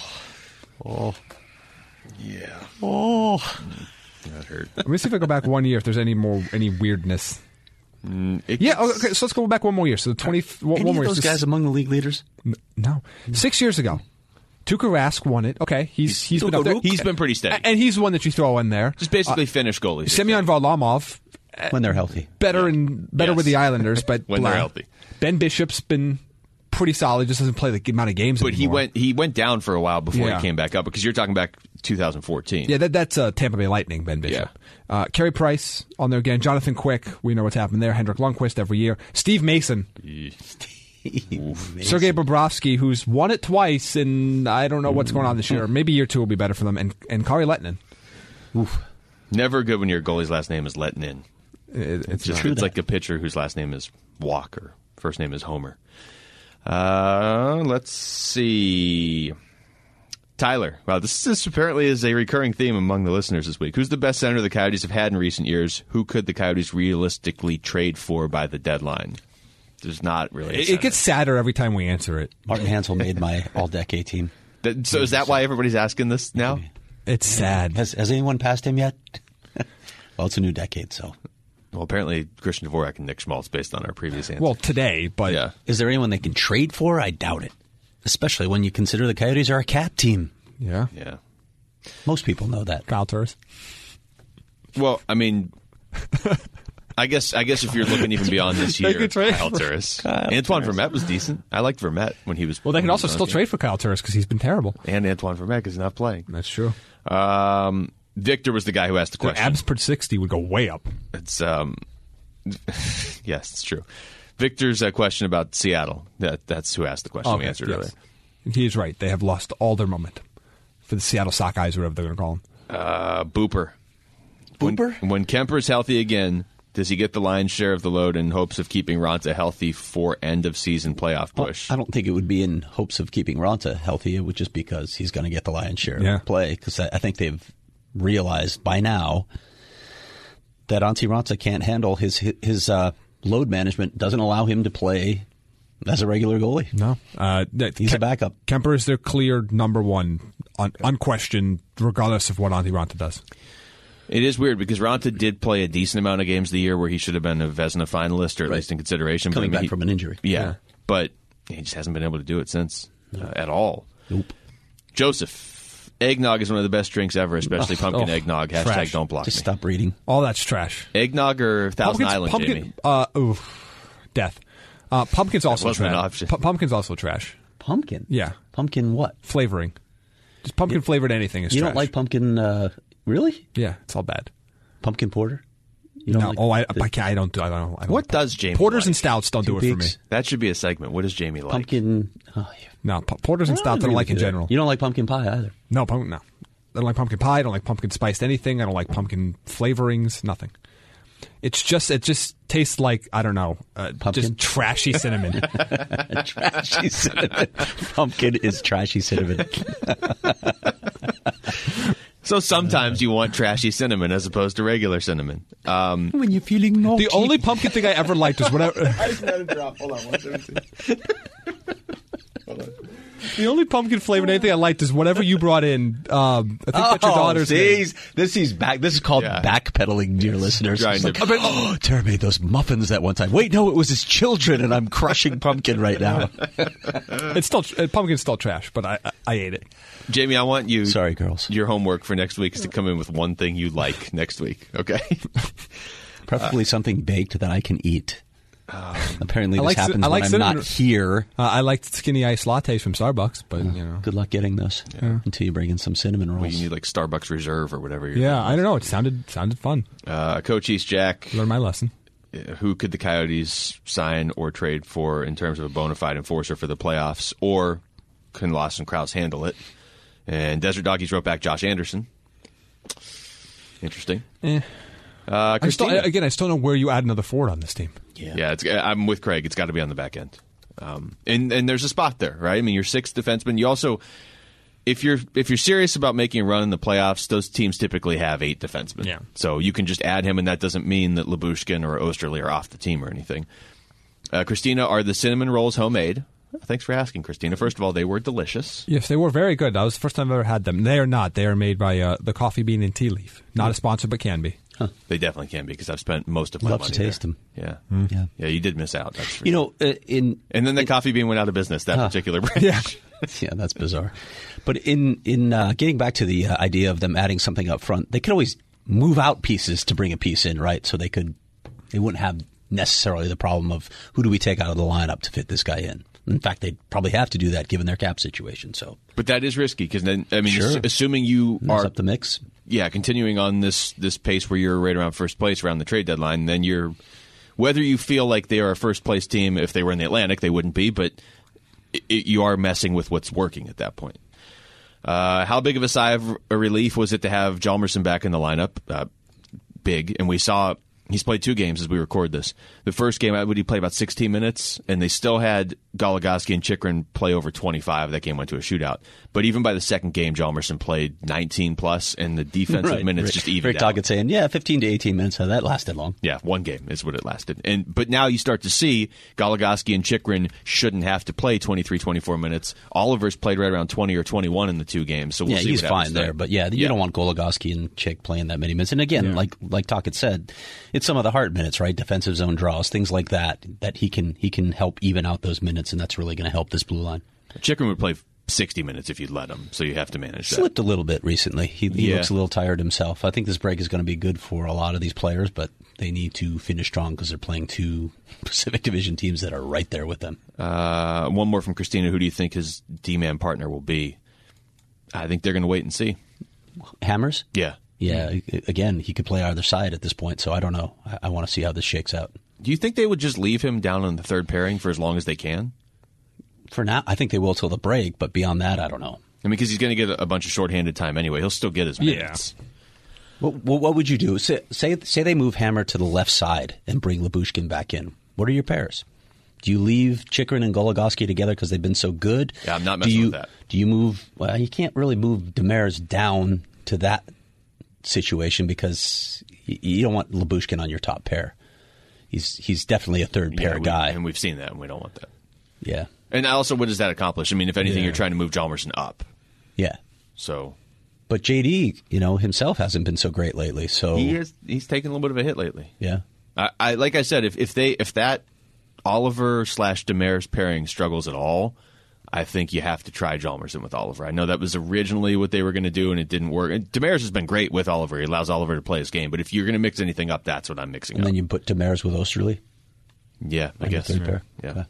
Yeah, Oh. that hurt. Let me see if I go back 1 year if there's any weirdness. It Yeah, gets- okay, so let's go back one more year. So 20 one Any more of year. those So guys among the league leaders? No. 6 years ago, Tuukka Rask won it. Okay, he's been up there. He's been pretty steady. And he's one that you throw in there. Just basically Finnish goalies. Semyon Varlamov, when they're healthy. better Yes. with the Islanders, but When they're healthy. Ben Bishop's been pretty solid. Just doesn't play the amount of games But anymore. he went down for a while before Yeah. he came back up, because you're talking back 2014. Yeah, that's Tampa Bay Lightning, Ben Bishop. Carey Price on there again. Jonathan Quick, we know what's happened there. Hendrik Lundqvist every year. Steve Mason. Sergei Bobrovsky, who's won it twice, and I don't know what's going on this year. Maybe year two will be better for them. And Kari Lehtinen. Never good when your goalie's last name is letting in. It's Just, true it's that. like a pitcher whose last name is Walker. First name is Homer. Let's see. Tyler. Wow, this apparently is a recurring theme among the listeners this week. Who's the best center the Coyotes have had in recent years? Who could the Coyotes realistically trade for by the deadline? There's not really a It center. gets sadder every time we answer it. Martin Hansel made my all-decade team. So is that why everybody's asking this now? It's sad. Has anyone passed him yet? Well, it's a new decade, so. Well, apparently Christian Dvorak and Nick Schmaltz, based on our previous answer. Well, today, but yeah. Is there anyone they can trade for? I doubt it. Especially when you consider the Coyotes are a cap team. yeah. Yeah. Most people know that. Kyle Turris. Well, I mean, I guess if you're looking even beyond this They year, could trade Kyle for Turris. Antoine Vermette was decent. I liked Vermette when he was. Well, they can when he also was still on. trade for Kyle Turris because he's been terrible. And Antoine Vermette because he's not playing. That's true. Victor was the guy who asked the Their question. abs per 60 would go way up. It's yes, it's true. Victor's question about Seattle. That's who asked the question. We answered earlier. He is right. They have lost all their momentum for the Seattle Sockeyes, or whatever they're going to call them. Booper. Booper? When Kemper's healthy again, does he get the lion's share of the load in hopes of keeping Ronta healthy for end of season playoff push? I don't think it would be in hopes of keeping Ronta healthy. It would just because he's going to get the lion's share Yeah. of the play. Because I think they've realized by now that Antti Ronta can't handle his load management. Doesn't allow him to play as a regular goalie. No. He's a backup. Kemper is their clear number one, unquestioned, regardless of what Antti Ronta does. It is weird because Ronta did play a decent amount of games of the year where he should have been a Vezina finalist or at least in consideration. Coming but I mean, back from an injury. Yeah, but he just hasn't been able to do it since at all. Nope. Joseph, eggnog is one of the best drinks ever, especially pumpkin eggnog. # trash. don't block Just me. stop reading. All that's trash. Eggnog or Thousand Island, Jamie? Death. Pumpkin's also wasn't an trash. option. Pumpkin's also trash. Pumpkin? Yeah. Pumpkin what? Flavoring. Just pumpkin flavored anything is You trash. don't like pumpkin, really? Yeah, it's all bad. Pumpkin porter? You don't No, like I don't. I don't. What does Jamie Porters like? and stouts don't do it for me. Peaks? That should be a segment. What does Jamie like? Pumpkin. Oh, yeah. No, porters and stouts I don't like in general. You don't like pumpkin pie either. No. I don't like pumpkin pie. I don't like pumpkin spiced anything. I don't like pumpkin flavorings. Nothing. It just tastes like, I don't know, Pumpkin? just trashy cinnamon. Trashy cinnamon. Pumpkin is trashy cinnamon. So sometimes you want trashy cinnamon as opposed to regular cinnamon. When you're feeling naughty. The only pumpkin thing I ever liked was whatever. The only pumpkin flavored anything I liked is whatever you brought in. I think that's your daughter's name. This is called Yeah. backpedaling, dear listeners. Trying It's to- like, oh, Tara made those muffins that one time. Wait, no, it was his children, and I'm crushing pumpkin right now. It's still pumpkin's still trash, but I ate it. Jamie, I want you. Sorry, girls. Your homework for next week is to come in with one thing you like next week. Okay. Preferably something baked that I can eat. Apparently, I this like happens I when like I'm cinnamon- not here. I liked skinny iced lattes from Starbucks, but you know. Good luck getting those until you bring in some cinnamon rolls. Well, you need like Starbucks Reserve or whatever. Yeah, I don't know. It sounded fun. Coach East Jack, Learned my lesson. who could the Coyotes sign or trade for in terms of a bona fide enforcer for the playoffs, or can Lawson Krause handle it? And Desert Doggies wrote back Josh Anderson. Interesting. I still don't know where you add another forward on this team. Yeah, I'm with Craig. It's got to be on the back end, and there's a spot there, right? I mean, your sixth defenseman. You also, if you're serious about making a run in the playoffs, those teams typically have 8 defensemen. Yeah. So you can just add him, and that doesn't mean that Lyubushkin or Osterley are off the team or anything. Christina, are the cinnamon rolls homemade? Thanks for asking, Christina. First of all, they were delicious. Yes, they were very good. That was the first time I've ever had them. They are not. They are made by the Coffee Bean and Tea Leaf. Not a sponsor, but can be. They definitely can be because I've spent most of my Love money to taste there. them. Yeah, yeah. You did miss out. That's for You sure. know, And then the Coffee Bean went out of business. That particular brand. Yeah. Yeah, that's bizarre. But in getting back to the idea of them adding something up front, they could always move out pieces to bring a piece in, right? So they wouldn't have necessarily the problem of who do we take out of the lineup to fit this guy in. In fact, they'd probably have to do that given their cap situation. So, but that is risky because then, I mean, Sure. assuming you mess are up the mix. Yeah, continuing on this pace where you're right around first place around the trade deadline, then whether you feel like they are a first place team, if they were in the Atlantic, they wouldn't be, but you are messing with what's working at that point. How big of a sigh of relief was it to have Hjalmarsson back in the lineup? Big, and we saw he's played 2 games as we record this. The first game, would he play about 16 minutes, and they still had Goligoski and Chychrun play over 25. That game went to a shootout. But even by the second game, Hjalmarsson played 19 plus, and the defensive minutes just evened out. Rick Tocchet saying, 15 to 18 minutes. How that lasted long. Yeah, 1 game is what it lasted. But now you start to see Goligoski and Chychrun shouldn't have to play 23, 24 minutes. Oliver's played right around 20 or 21 in the 2 games, so we'll see he's what happens fine there. But you don't want Goligoski and Chick playing that many minutes. And again, like Tocchet said, it's some of the hard minutes, right? Defensive zone draws, things like that he can help even out those minutes, and that's really going to help this blue line. Chychrun would play 60 minutes if you'd let him, so you have to manage that. Slipped a little bit recently. He looks a little tired himself. I think this break is going to be good for a lot of these players, but they need to finish strong because they're playing 2 Pacific Division teams that are right there with them. One more from Christina. Who do you think his D-man partner will be? I think they're going to wait and see. Hammers? Yeah. Yeah, again, he could play either side at this point, so I don't know. I want to see how this shakes out. Do you think they would just leave him down on the third pairing for as long as they can? For now, I think they will till the break, but beyond that, I don't know. I mean, because he's going to get a bunch of shorthanded time anyway. He'll still get his minutes. Well, what would you do? Say they move Hammer to the left side and bring Lyubushkin back in. What are your pairs? Do you leave Chychrun and Goligoski together because they've been so good? Yeah, I'm not messing with that. Do you move? Well, you can't really move Demers down to that situation because you don't want Lyubushkin on your top pair. He's definitely a third pair guy, and we've seen that, and we don't want that. Yeah. And also, what does that accomplish? I mean, if anything, you're trying to move Hjalmarsson up. Yeah. So, but JD, himself hasn't been so great lately. So he's taken a little bit of a hit lately. Yeah. I like I said, if that Oliver / Demers pairing struggles at all, I think you have to try Hjalmarsson with Oliver. I know that was originally what they were going to do, and it didn't work. And Demers has been great with Oliver. He allows Oliver to play his game. But if you're going to mix anything up, that's what I'm mixing up. And then you put Demers with Osterley? Yeah, I guess. Third pair? Yeah. Okay.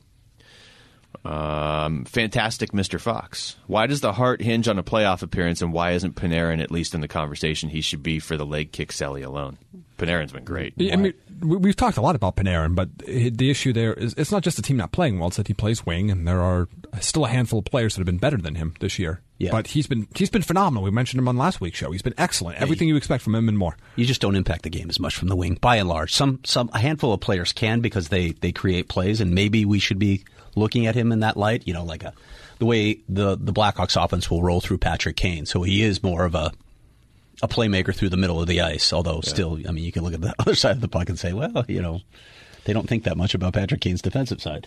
Fantastic Mr. Fox. Why does the heart hinge on a playoff appearance, and why isn't Panarin at least in the conversation he should be for the leg kick Sally alone? Panarin's been great. I mean, we've talked a lot about Panarin, but the issue there is it's not just the team not playing well; it's that he plays wing, and there are still a handful of players that have been better than him this year. Yeah. But he's been phenomenal. We mentioned him on last week's show. He's been excellent. Everything you expect from him and more. You just don't impact the game as much from the wing, by and large. A handful of players can because they create plays, and maybe we should be looking at him in that light. Like the way the Blackhawks offense will roll through Patrick Kane. So he is more of a playmaker through the middle of the ice. Although still, I mean, you can look at the other side of the puck and say, well, they don't think that much about Patrick Kane's defensive side.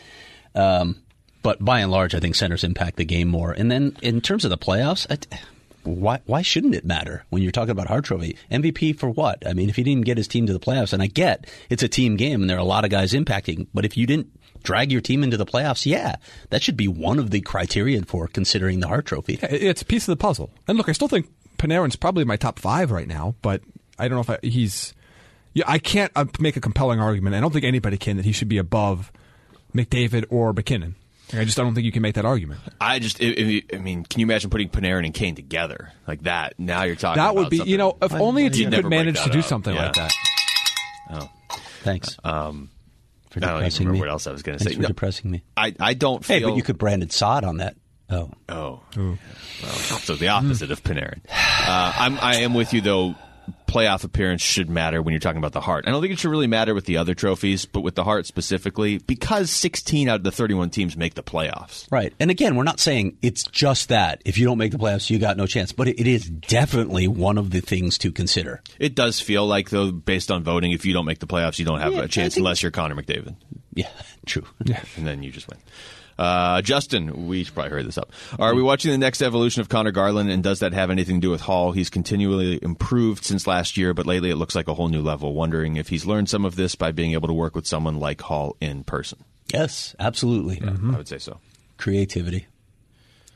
But by and large, I think centers impact the game more. And then in terms of the playoffs, why shouldn't it matter when you're talking about Hart Trophy? MVP for what? I mean, if he didn't get his team to the playoffs, and I get it's a team game and there are a lot of guys impacting, but if you didn't drag your team into the playoffs, that should be one of the criteria for considering the Hart Trophy. It's a piece of the puzzle. And look, I still think Panarin's probably my top 5 right now, but I don't know if he's... Yeah, I can't make a compelling argument. I don't think anybody can that he should be above McDavid or McKinnon. I don't think you can make that argument. I mean, can you imagine putting Panarin and Kane together like that? Now you're talking that about would be, something. if only a team could manage to do up. something like that. Oh. Thanks. I don't even remember what else I was going to say. Thanks for depressing me. I don't feel... Hey, but you could Brandon Saad on that. Oh. Well, so the opposite of Panarin. I am with you, though. Playoff appearance should matter when you're talking about the Hart. I don't think it should really matter with the other trophies, but with the Hart specifically, because 16 out of the 31 teams make the playoffs. Right. And again, we're not saying it's just that. If you don't make the playoffs, you got no chance. But it is definitely one of the things to consider. It does feel like, though, based on voting, if you don't make the playoffs, you don't have a chance unless you're Connor McDavid. Yeah, true. Yeah. And then you just win. Justin, we should probably hurry this up. Are we watching the next evolution of Connor Garland, and does that have anything to do with Hall? He's continually improved since last year, but lately it looks like a whole new level. Wondering if he's learned some of this by being able to work with someone like Hall in person. Yes, absolutely. Yeah, I would say so. Creativity.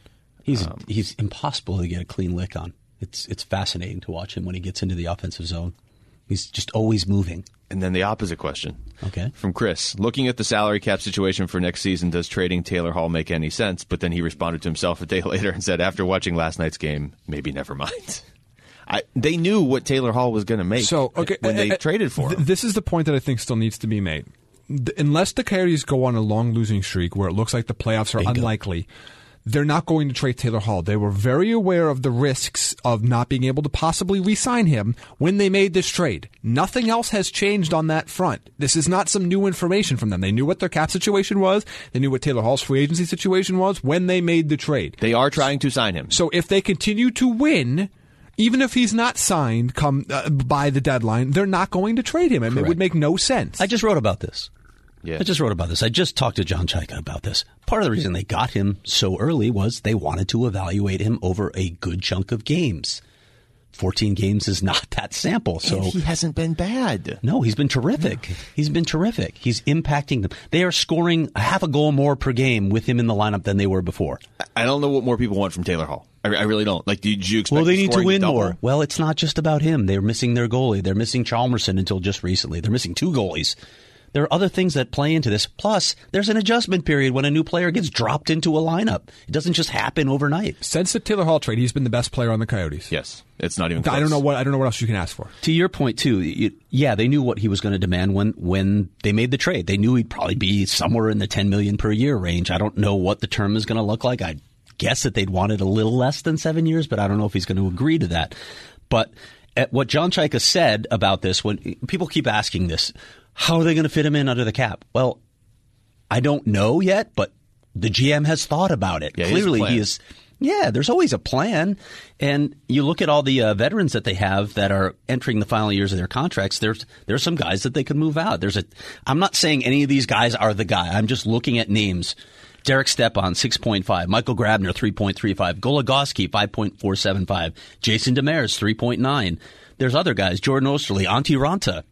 He's impossible to get a clean lick on. It's fascinating to watch him when he gets into the offensive zone. He's just always moving. And then the opposite question. Okay. From Chris. Looking at the salary cap situation for next season, does trading Taylor Hall make any sense? But then he responded to himself a day later and said, after watching last night's game, maybe never mind. They knew what Taylor Hall was going to make when they traded for him. This is the point that I think still needs to be made. Unless the Coyotes go on a long losing streak where it looks like the playoffs are unlikely, they're not going to trade Taylor Hall. They were very aware of the risks of not being able to possibly re-sign him when they made this trade. Nothing else has changed on that front. This is not some new information from them. They knew what their cap situation was. They knew what Taylor Hall's free agency situation was when they made the trade. They are trying to sign him. So if they continue to win, even if he's not signed by the deadline, they're not going to trade him. I mean, it would make no sense. I just wrote about this. Yeah. I just talked to John Chaika about this. Part of the reason they got him so early was they wanted to evaluate him over a good chunk of games. 14 games is not that sample. So and he hasn't been bad. No, he's been terrific. Yeah. He's been terrific. He's impacting them. They are scoring half a goal more per game with him in the lineup than they were before. I don't know what more people want from Taylor Hall. I really don't. Like, did you expect? Well, they need to win double? more. Well, it's not just about him. They're missing their goalie. They're missing Chalmerson until just recently. They're missing 2 goalies. There are other things that play into this. Plus, there's an adjustment period when a new player gets dropped into a lineup. It doesn't just happen overnight. Since the Taylor Hall trade, he's been the best player on the Coyotes. Yes, it's not even close. I don't know what else you can ask for. To your point too, they knew what he was going to demand when they made the trade. They knew he'd probably be somewhere in the $10 million per year range. I don't know what the term is going to look like. I guess that they'd want it a little less than 7 years, but I don't know if he's going to agree to that. But at what John Chaika said about this, when people keep asking this, how are they going to fit him in under the cap? Well, I don't know yet, but the GM has thought about it. Yeah, clearly, he is. Yeah, there's always a plan. And you look at all the veterans that they have that are entering the final years of their contracts. There's some guys that they could move out. I'm not saying any of these guys are the guy. I'm just looking at names. Derek Stepan, 6.5. Michael Grabner, 3.35. Goligoski, 5.475. Jason Demers, 3.9. There's other guys. Jordan Osterley, Antti Ranta.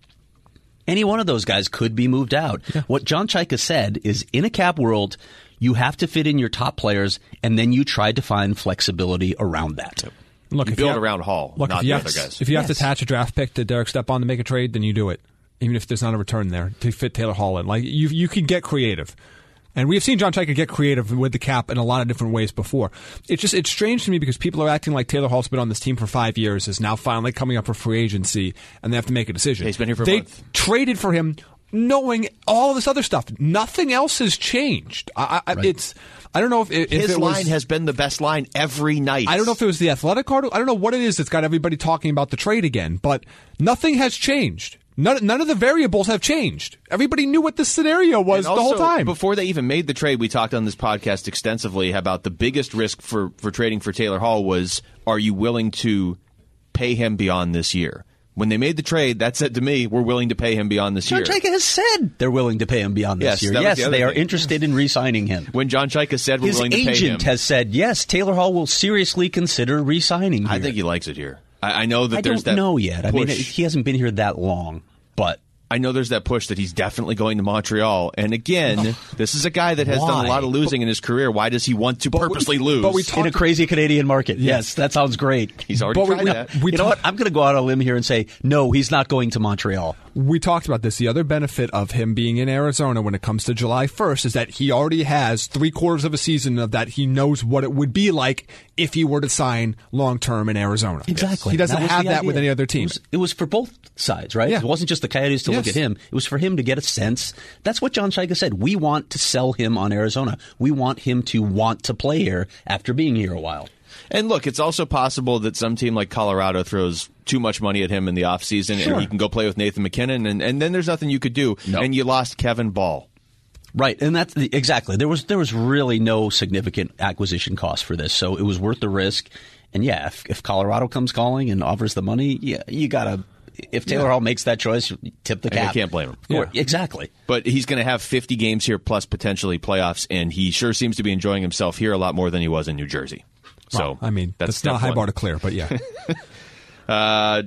Any one of those guys could be moved out. Yeah. What John Chaika said is, in a cap world, you have to fit in your top players, and then you try to find flexibility around that. Look, you build around Hall, not the other guys. If you have to attach a draft pick to Derek Stepan to make a trade, then you do it, even if there's not a return there to fit Taylor Hall in. Like you can get creative. And we've seen John Chaika get creative with the cap in a lot of different ways before. It's strange to me because people are acting like Taylor Hall's been on this team for 5 years, is now finally coming up for free agency, and they have to make a decision. He's been here for a month. They traded for him knowing all of this other stuff. Nothing else has changed. I don't know if his line has been the best line every night. I don't know if it was the Athletic article. I don't know what it is that's got everybody talking about the trade again, but nothing has changed. None of the variables have changed. Everybody knew what this scenario was the whole time. Before they even made the trade, we talked on this podcast extensively about the biggest risk for trading for Taylor Hall was, are you willing to pay him beyond this year? When they made the trade, that said to me, we're willing to pay him beyond this year. John Chaika has said they're willing to pay him beyond this year. Yes, they are interested in re-signing him. When John Chaika said we're willing to pay him. His agent has said, yes, Taylor Hall will seriously consider re-signing here. I think he likes it here. I know that there's that. I don't know yet. Push. I mean, he hasn't been here that long, but I know there's that push that he's definitely going to Montreal. And again, this is a guy that has done a lot of losing in his career. Why does he want to purposely lose? In a crazy Canadian market. Yes, that sounds great. He's already tried that. You know what? I'm going to go out on a limb here and say, no, he's not going to Montreal. We talked about this. The other benefit of him being in Arizona when it comes to July 1st is that he already has 3/4 of a season of that. He knows what it would be like if he were to sign long-term in Arizona. Exactly. He doesn't have that with any other team. It was for both sides, right? Yeah. It wasn't just the Coyotes to look at him. It was for him to get a sense. That's what John Chaika said. We want to sell him on Arizona. We want him to want to play here after being here a while. And look, it's also possible that some team like Colorado throws too much money at him in the offseason and he can go play with Nathan McKinnon, and then there's nothing you could do. No. And you lost Kevin Ball. Right, and that's exactly. There was really no significant acquisition cost for this, so it was worth the risk. And yeah, if Colorado comes calling and offers the money, yeah, you gotta. If Taylor Hall makes that choice, tip the cap. I can't blame him. Yeah. Exactly. But he's going to have 50 games here plus potentially playoffs, and he sure seems to be enjoying himself here a lot more than he was in New Jersey. So I mean, that's not a high bar to clear, but yeah.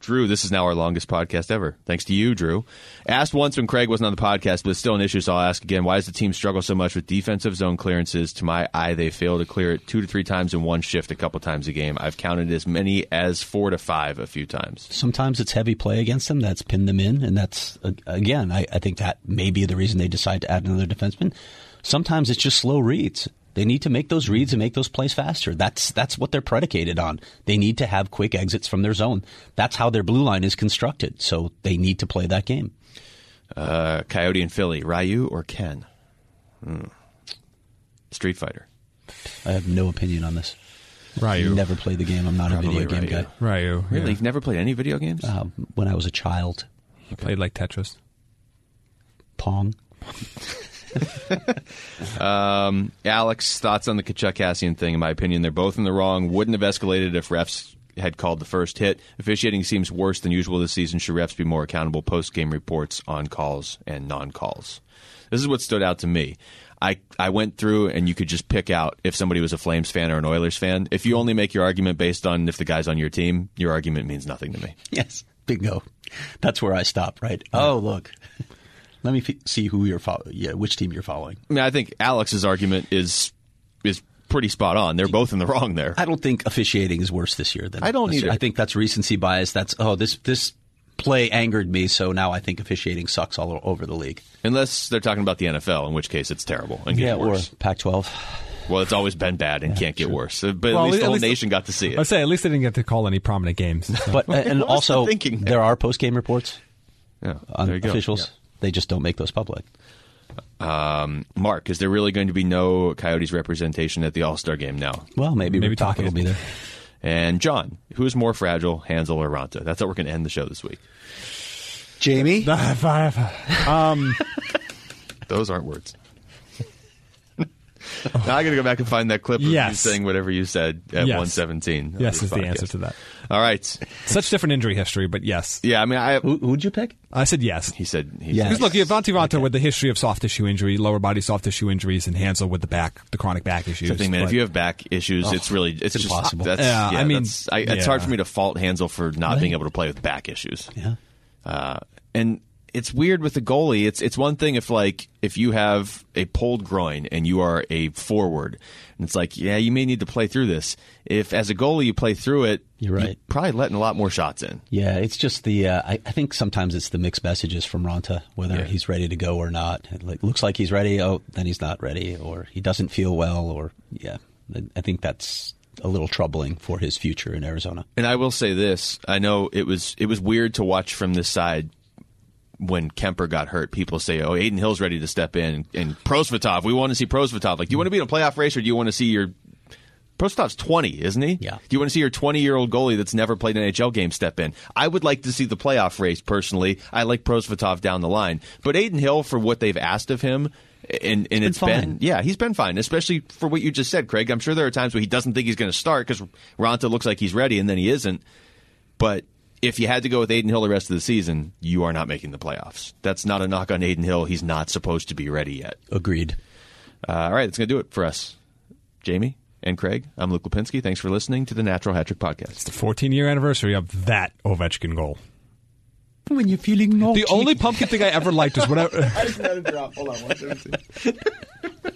Drew, this is now our longest podcast ever. Thanks to you, Drew. Asked once when Craig wasn't on the podcast, but it's still an issue, so I'll ask again. Why does the team struggle so much with defensive zone clearances? To my eye, they fail to clear it 2 to 3 times in one shift a couple times a game. I've counted as many as 4 to 5 a few times. Sometimes it's heavy play against them that's pinned them in, and that's, again, I think that may be the reason they decide to add another defenseman. Sometimes it's just slow reads. They need to make those reads and make those plays faster. That's what they're predicated on. They need to have quick exits from their zone. That's how their blue line is constructed. So they need to play that game. Coyote and Philly, Ryu or Ken? Street Fighter. I have no opinion on this. Ryu. Never played the game. I'm not Probably a video game guy. Ryu. Really? Yeah. You've never played any video games? When I was a child. He played like Tetris. Pong. Alex, thoughts on the Kachuk-Cassian thing? In my opinion, they're both in the wrong. Wouldn't have escalated if refs had called the first hit. Officiating seems worse than usual this season. Should refs be more accountable? Post-game reports on calls and non-calls. This is what stood out to me. I went through, and you could just pick out if somebody was a Flames fan or an Oilers fan. If you only make your argument based on if the guy's on your team, your argument means nothing to me. Yes, bingo. That's where I stop, right? Oh, look. Let me see who you're which team you're following. I mean, I think Alex's argument is pretty spot on. They're both in the wrong there. I don't think officiating is worse this year than I don't either. I think that's recency bias. That's this play angered me, so now I think officiating sucks all over the league. Unless they're talking about the NFL, in which case it's terrible and getting worse. Or Pac-12. Well, it's always been bad and can't get worse. But at least the whole nation got to see it. I'd say at least they didn't get to call any prominent games. So. But and What was also the thinking there? there are post-game reports Yeah, on there you go. officials. Yeah. They just don't make those public. Mark, is there really going to be no Coyotes representation at the All-Star game now? Well, maybe Rick Tocchet will be there. And John, who's more fragile, Hansel or Ranta? That's how we're going to end the show this week. Jamie? Those aren't words. Now I got to go back and find that clip of you saying whatever you said at 1:17. Yes is the answer to that. All right. Such different injury history, but yes. Yeah, I mean, Who'd you pick? I said yes. He said Yes. Because look, you have Antti Ranta with the history of soft tissue injury, lower body soft tissue injuries, and Hansel with the chronic back issues. Something, man. If you have back issues, it's just impossible. That's, I mean, it's hard for me to fault Hansel for not being able to play with back issues. Yeah. And it's weird with the goalie. It's one thing if you have a pulled groin and you are a forward, and it's like, yeah, you may need to play through this. If as a goalie you play through it, You're right. probably letting a lot more shots in. Yeah, it's just the. I think sometimes it's the mixed messages from Ranta, whether he's ready to go or not. It looks like he's ready. Oh, then he's not ready, or he doesn't feel well, or I think that's a little troubling for his future in Arizona. And I will say this: I know it was weird to watch from this side. When Kemper got hurt, people say, "Oh, Adin Hill's ready to step in," and Prosvetov. We want to see Prosvetov. Like, do you want to be in a playoff race, or do you want to see your Prosvetov's 20, isn't he? Yeah. Do you want to see your 20-year-old goalie that's never played an NHL game step in? I would like to see the playoff race personally. I like Prosvetov down the line, but Adin Hill, for what they've asked of him, and it's been he's been fine, especially for what you just said, Craig. I'm sure there are times where he doesn't think he's going to start because Ranta looks like he's ready, and then he isn't. But if you had to go with Adin Hill the rest of the season, you are not making the playoffs. That's not a knock on Adin Hill. He's not supposed to be ready yet. Agreed. All right, that's going to do it for us. Jamie and Craig, I'm Luke Lipinski. Thanks for listening to the Natural Hat Trick Podcast. It's the 14-year anniversary of that Ovechkin goal. When you're feeling naughty. The only pumpkin thing I ever liked was whenever. I just had a drop. Hold on, 117.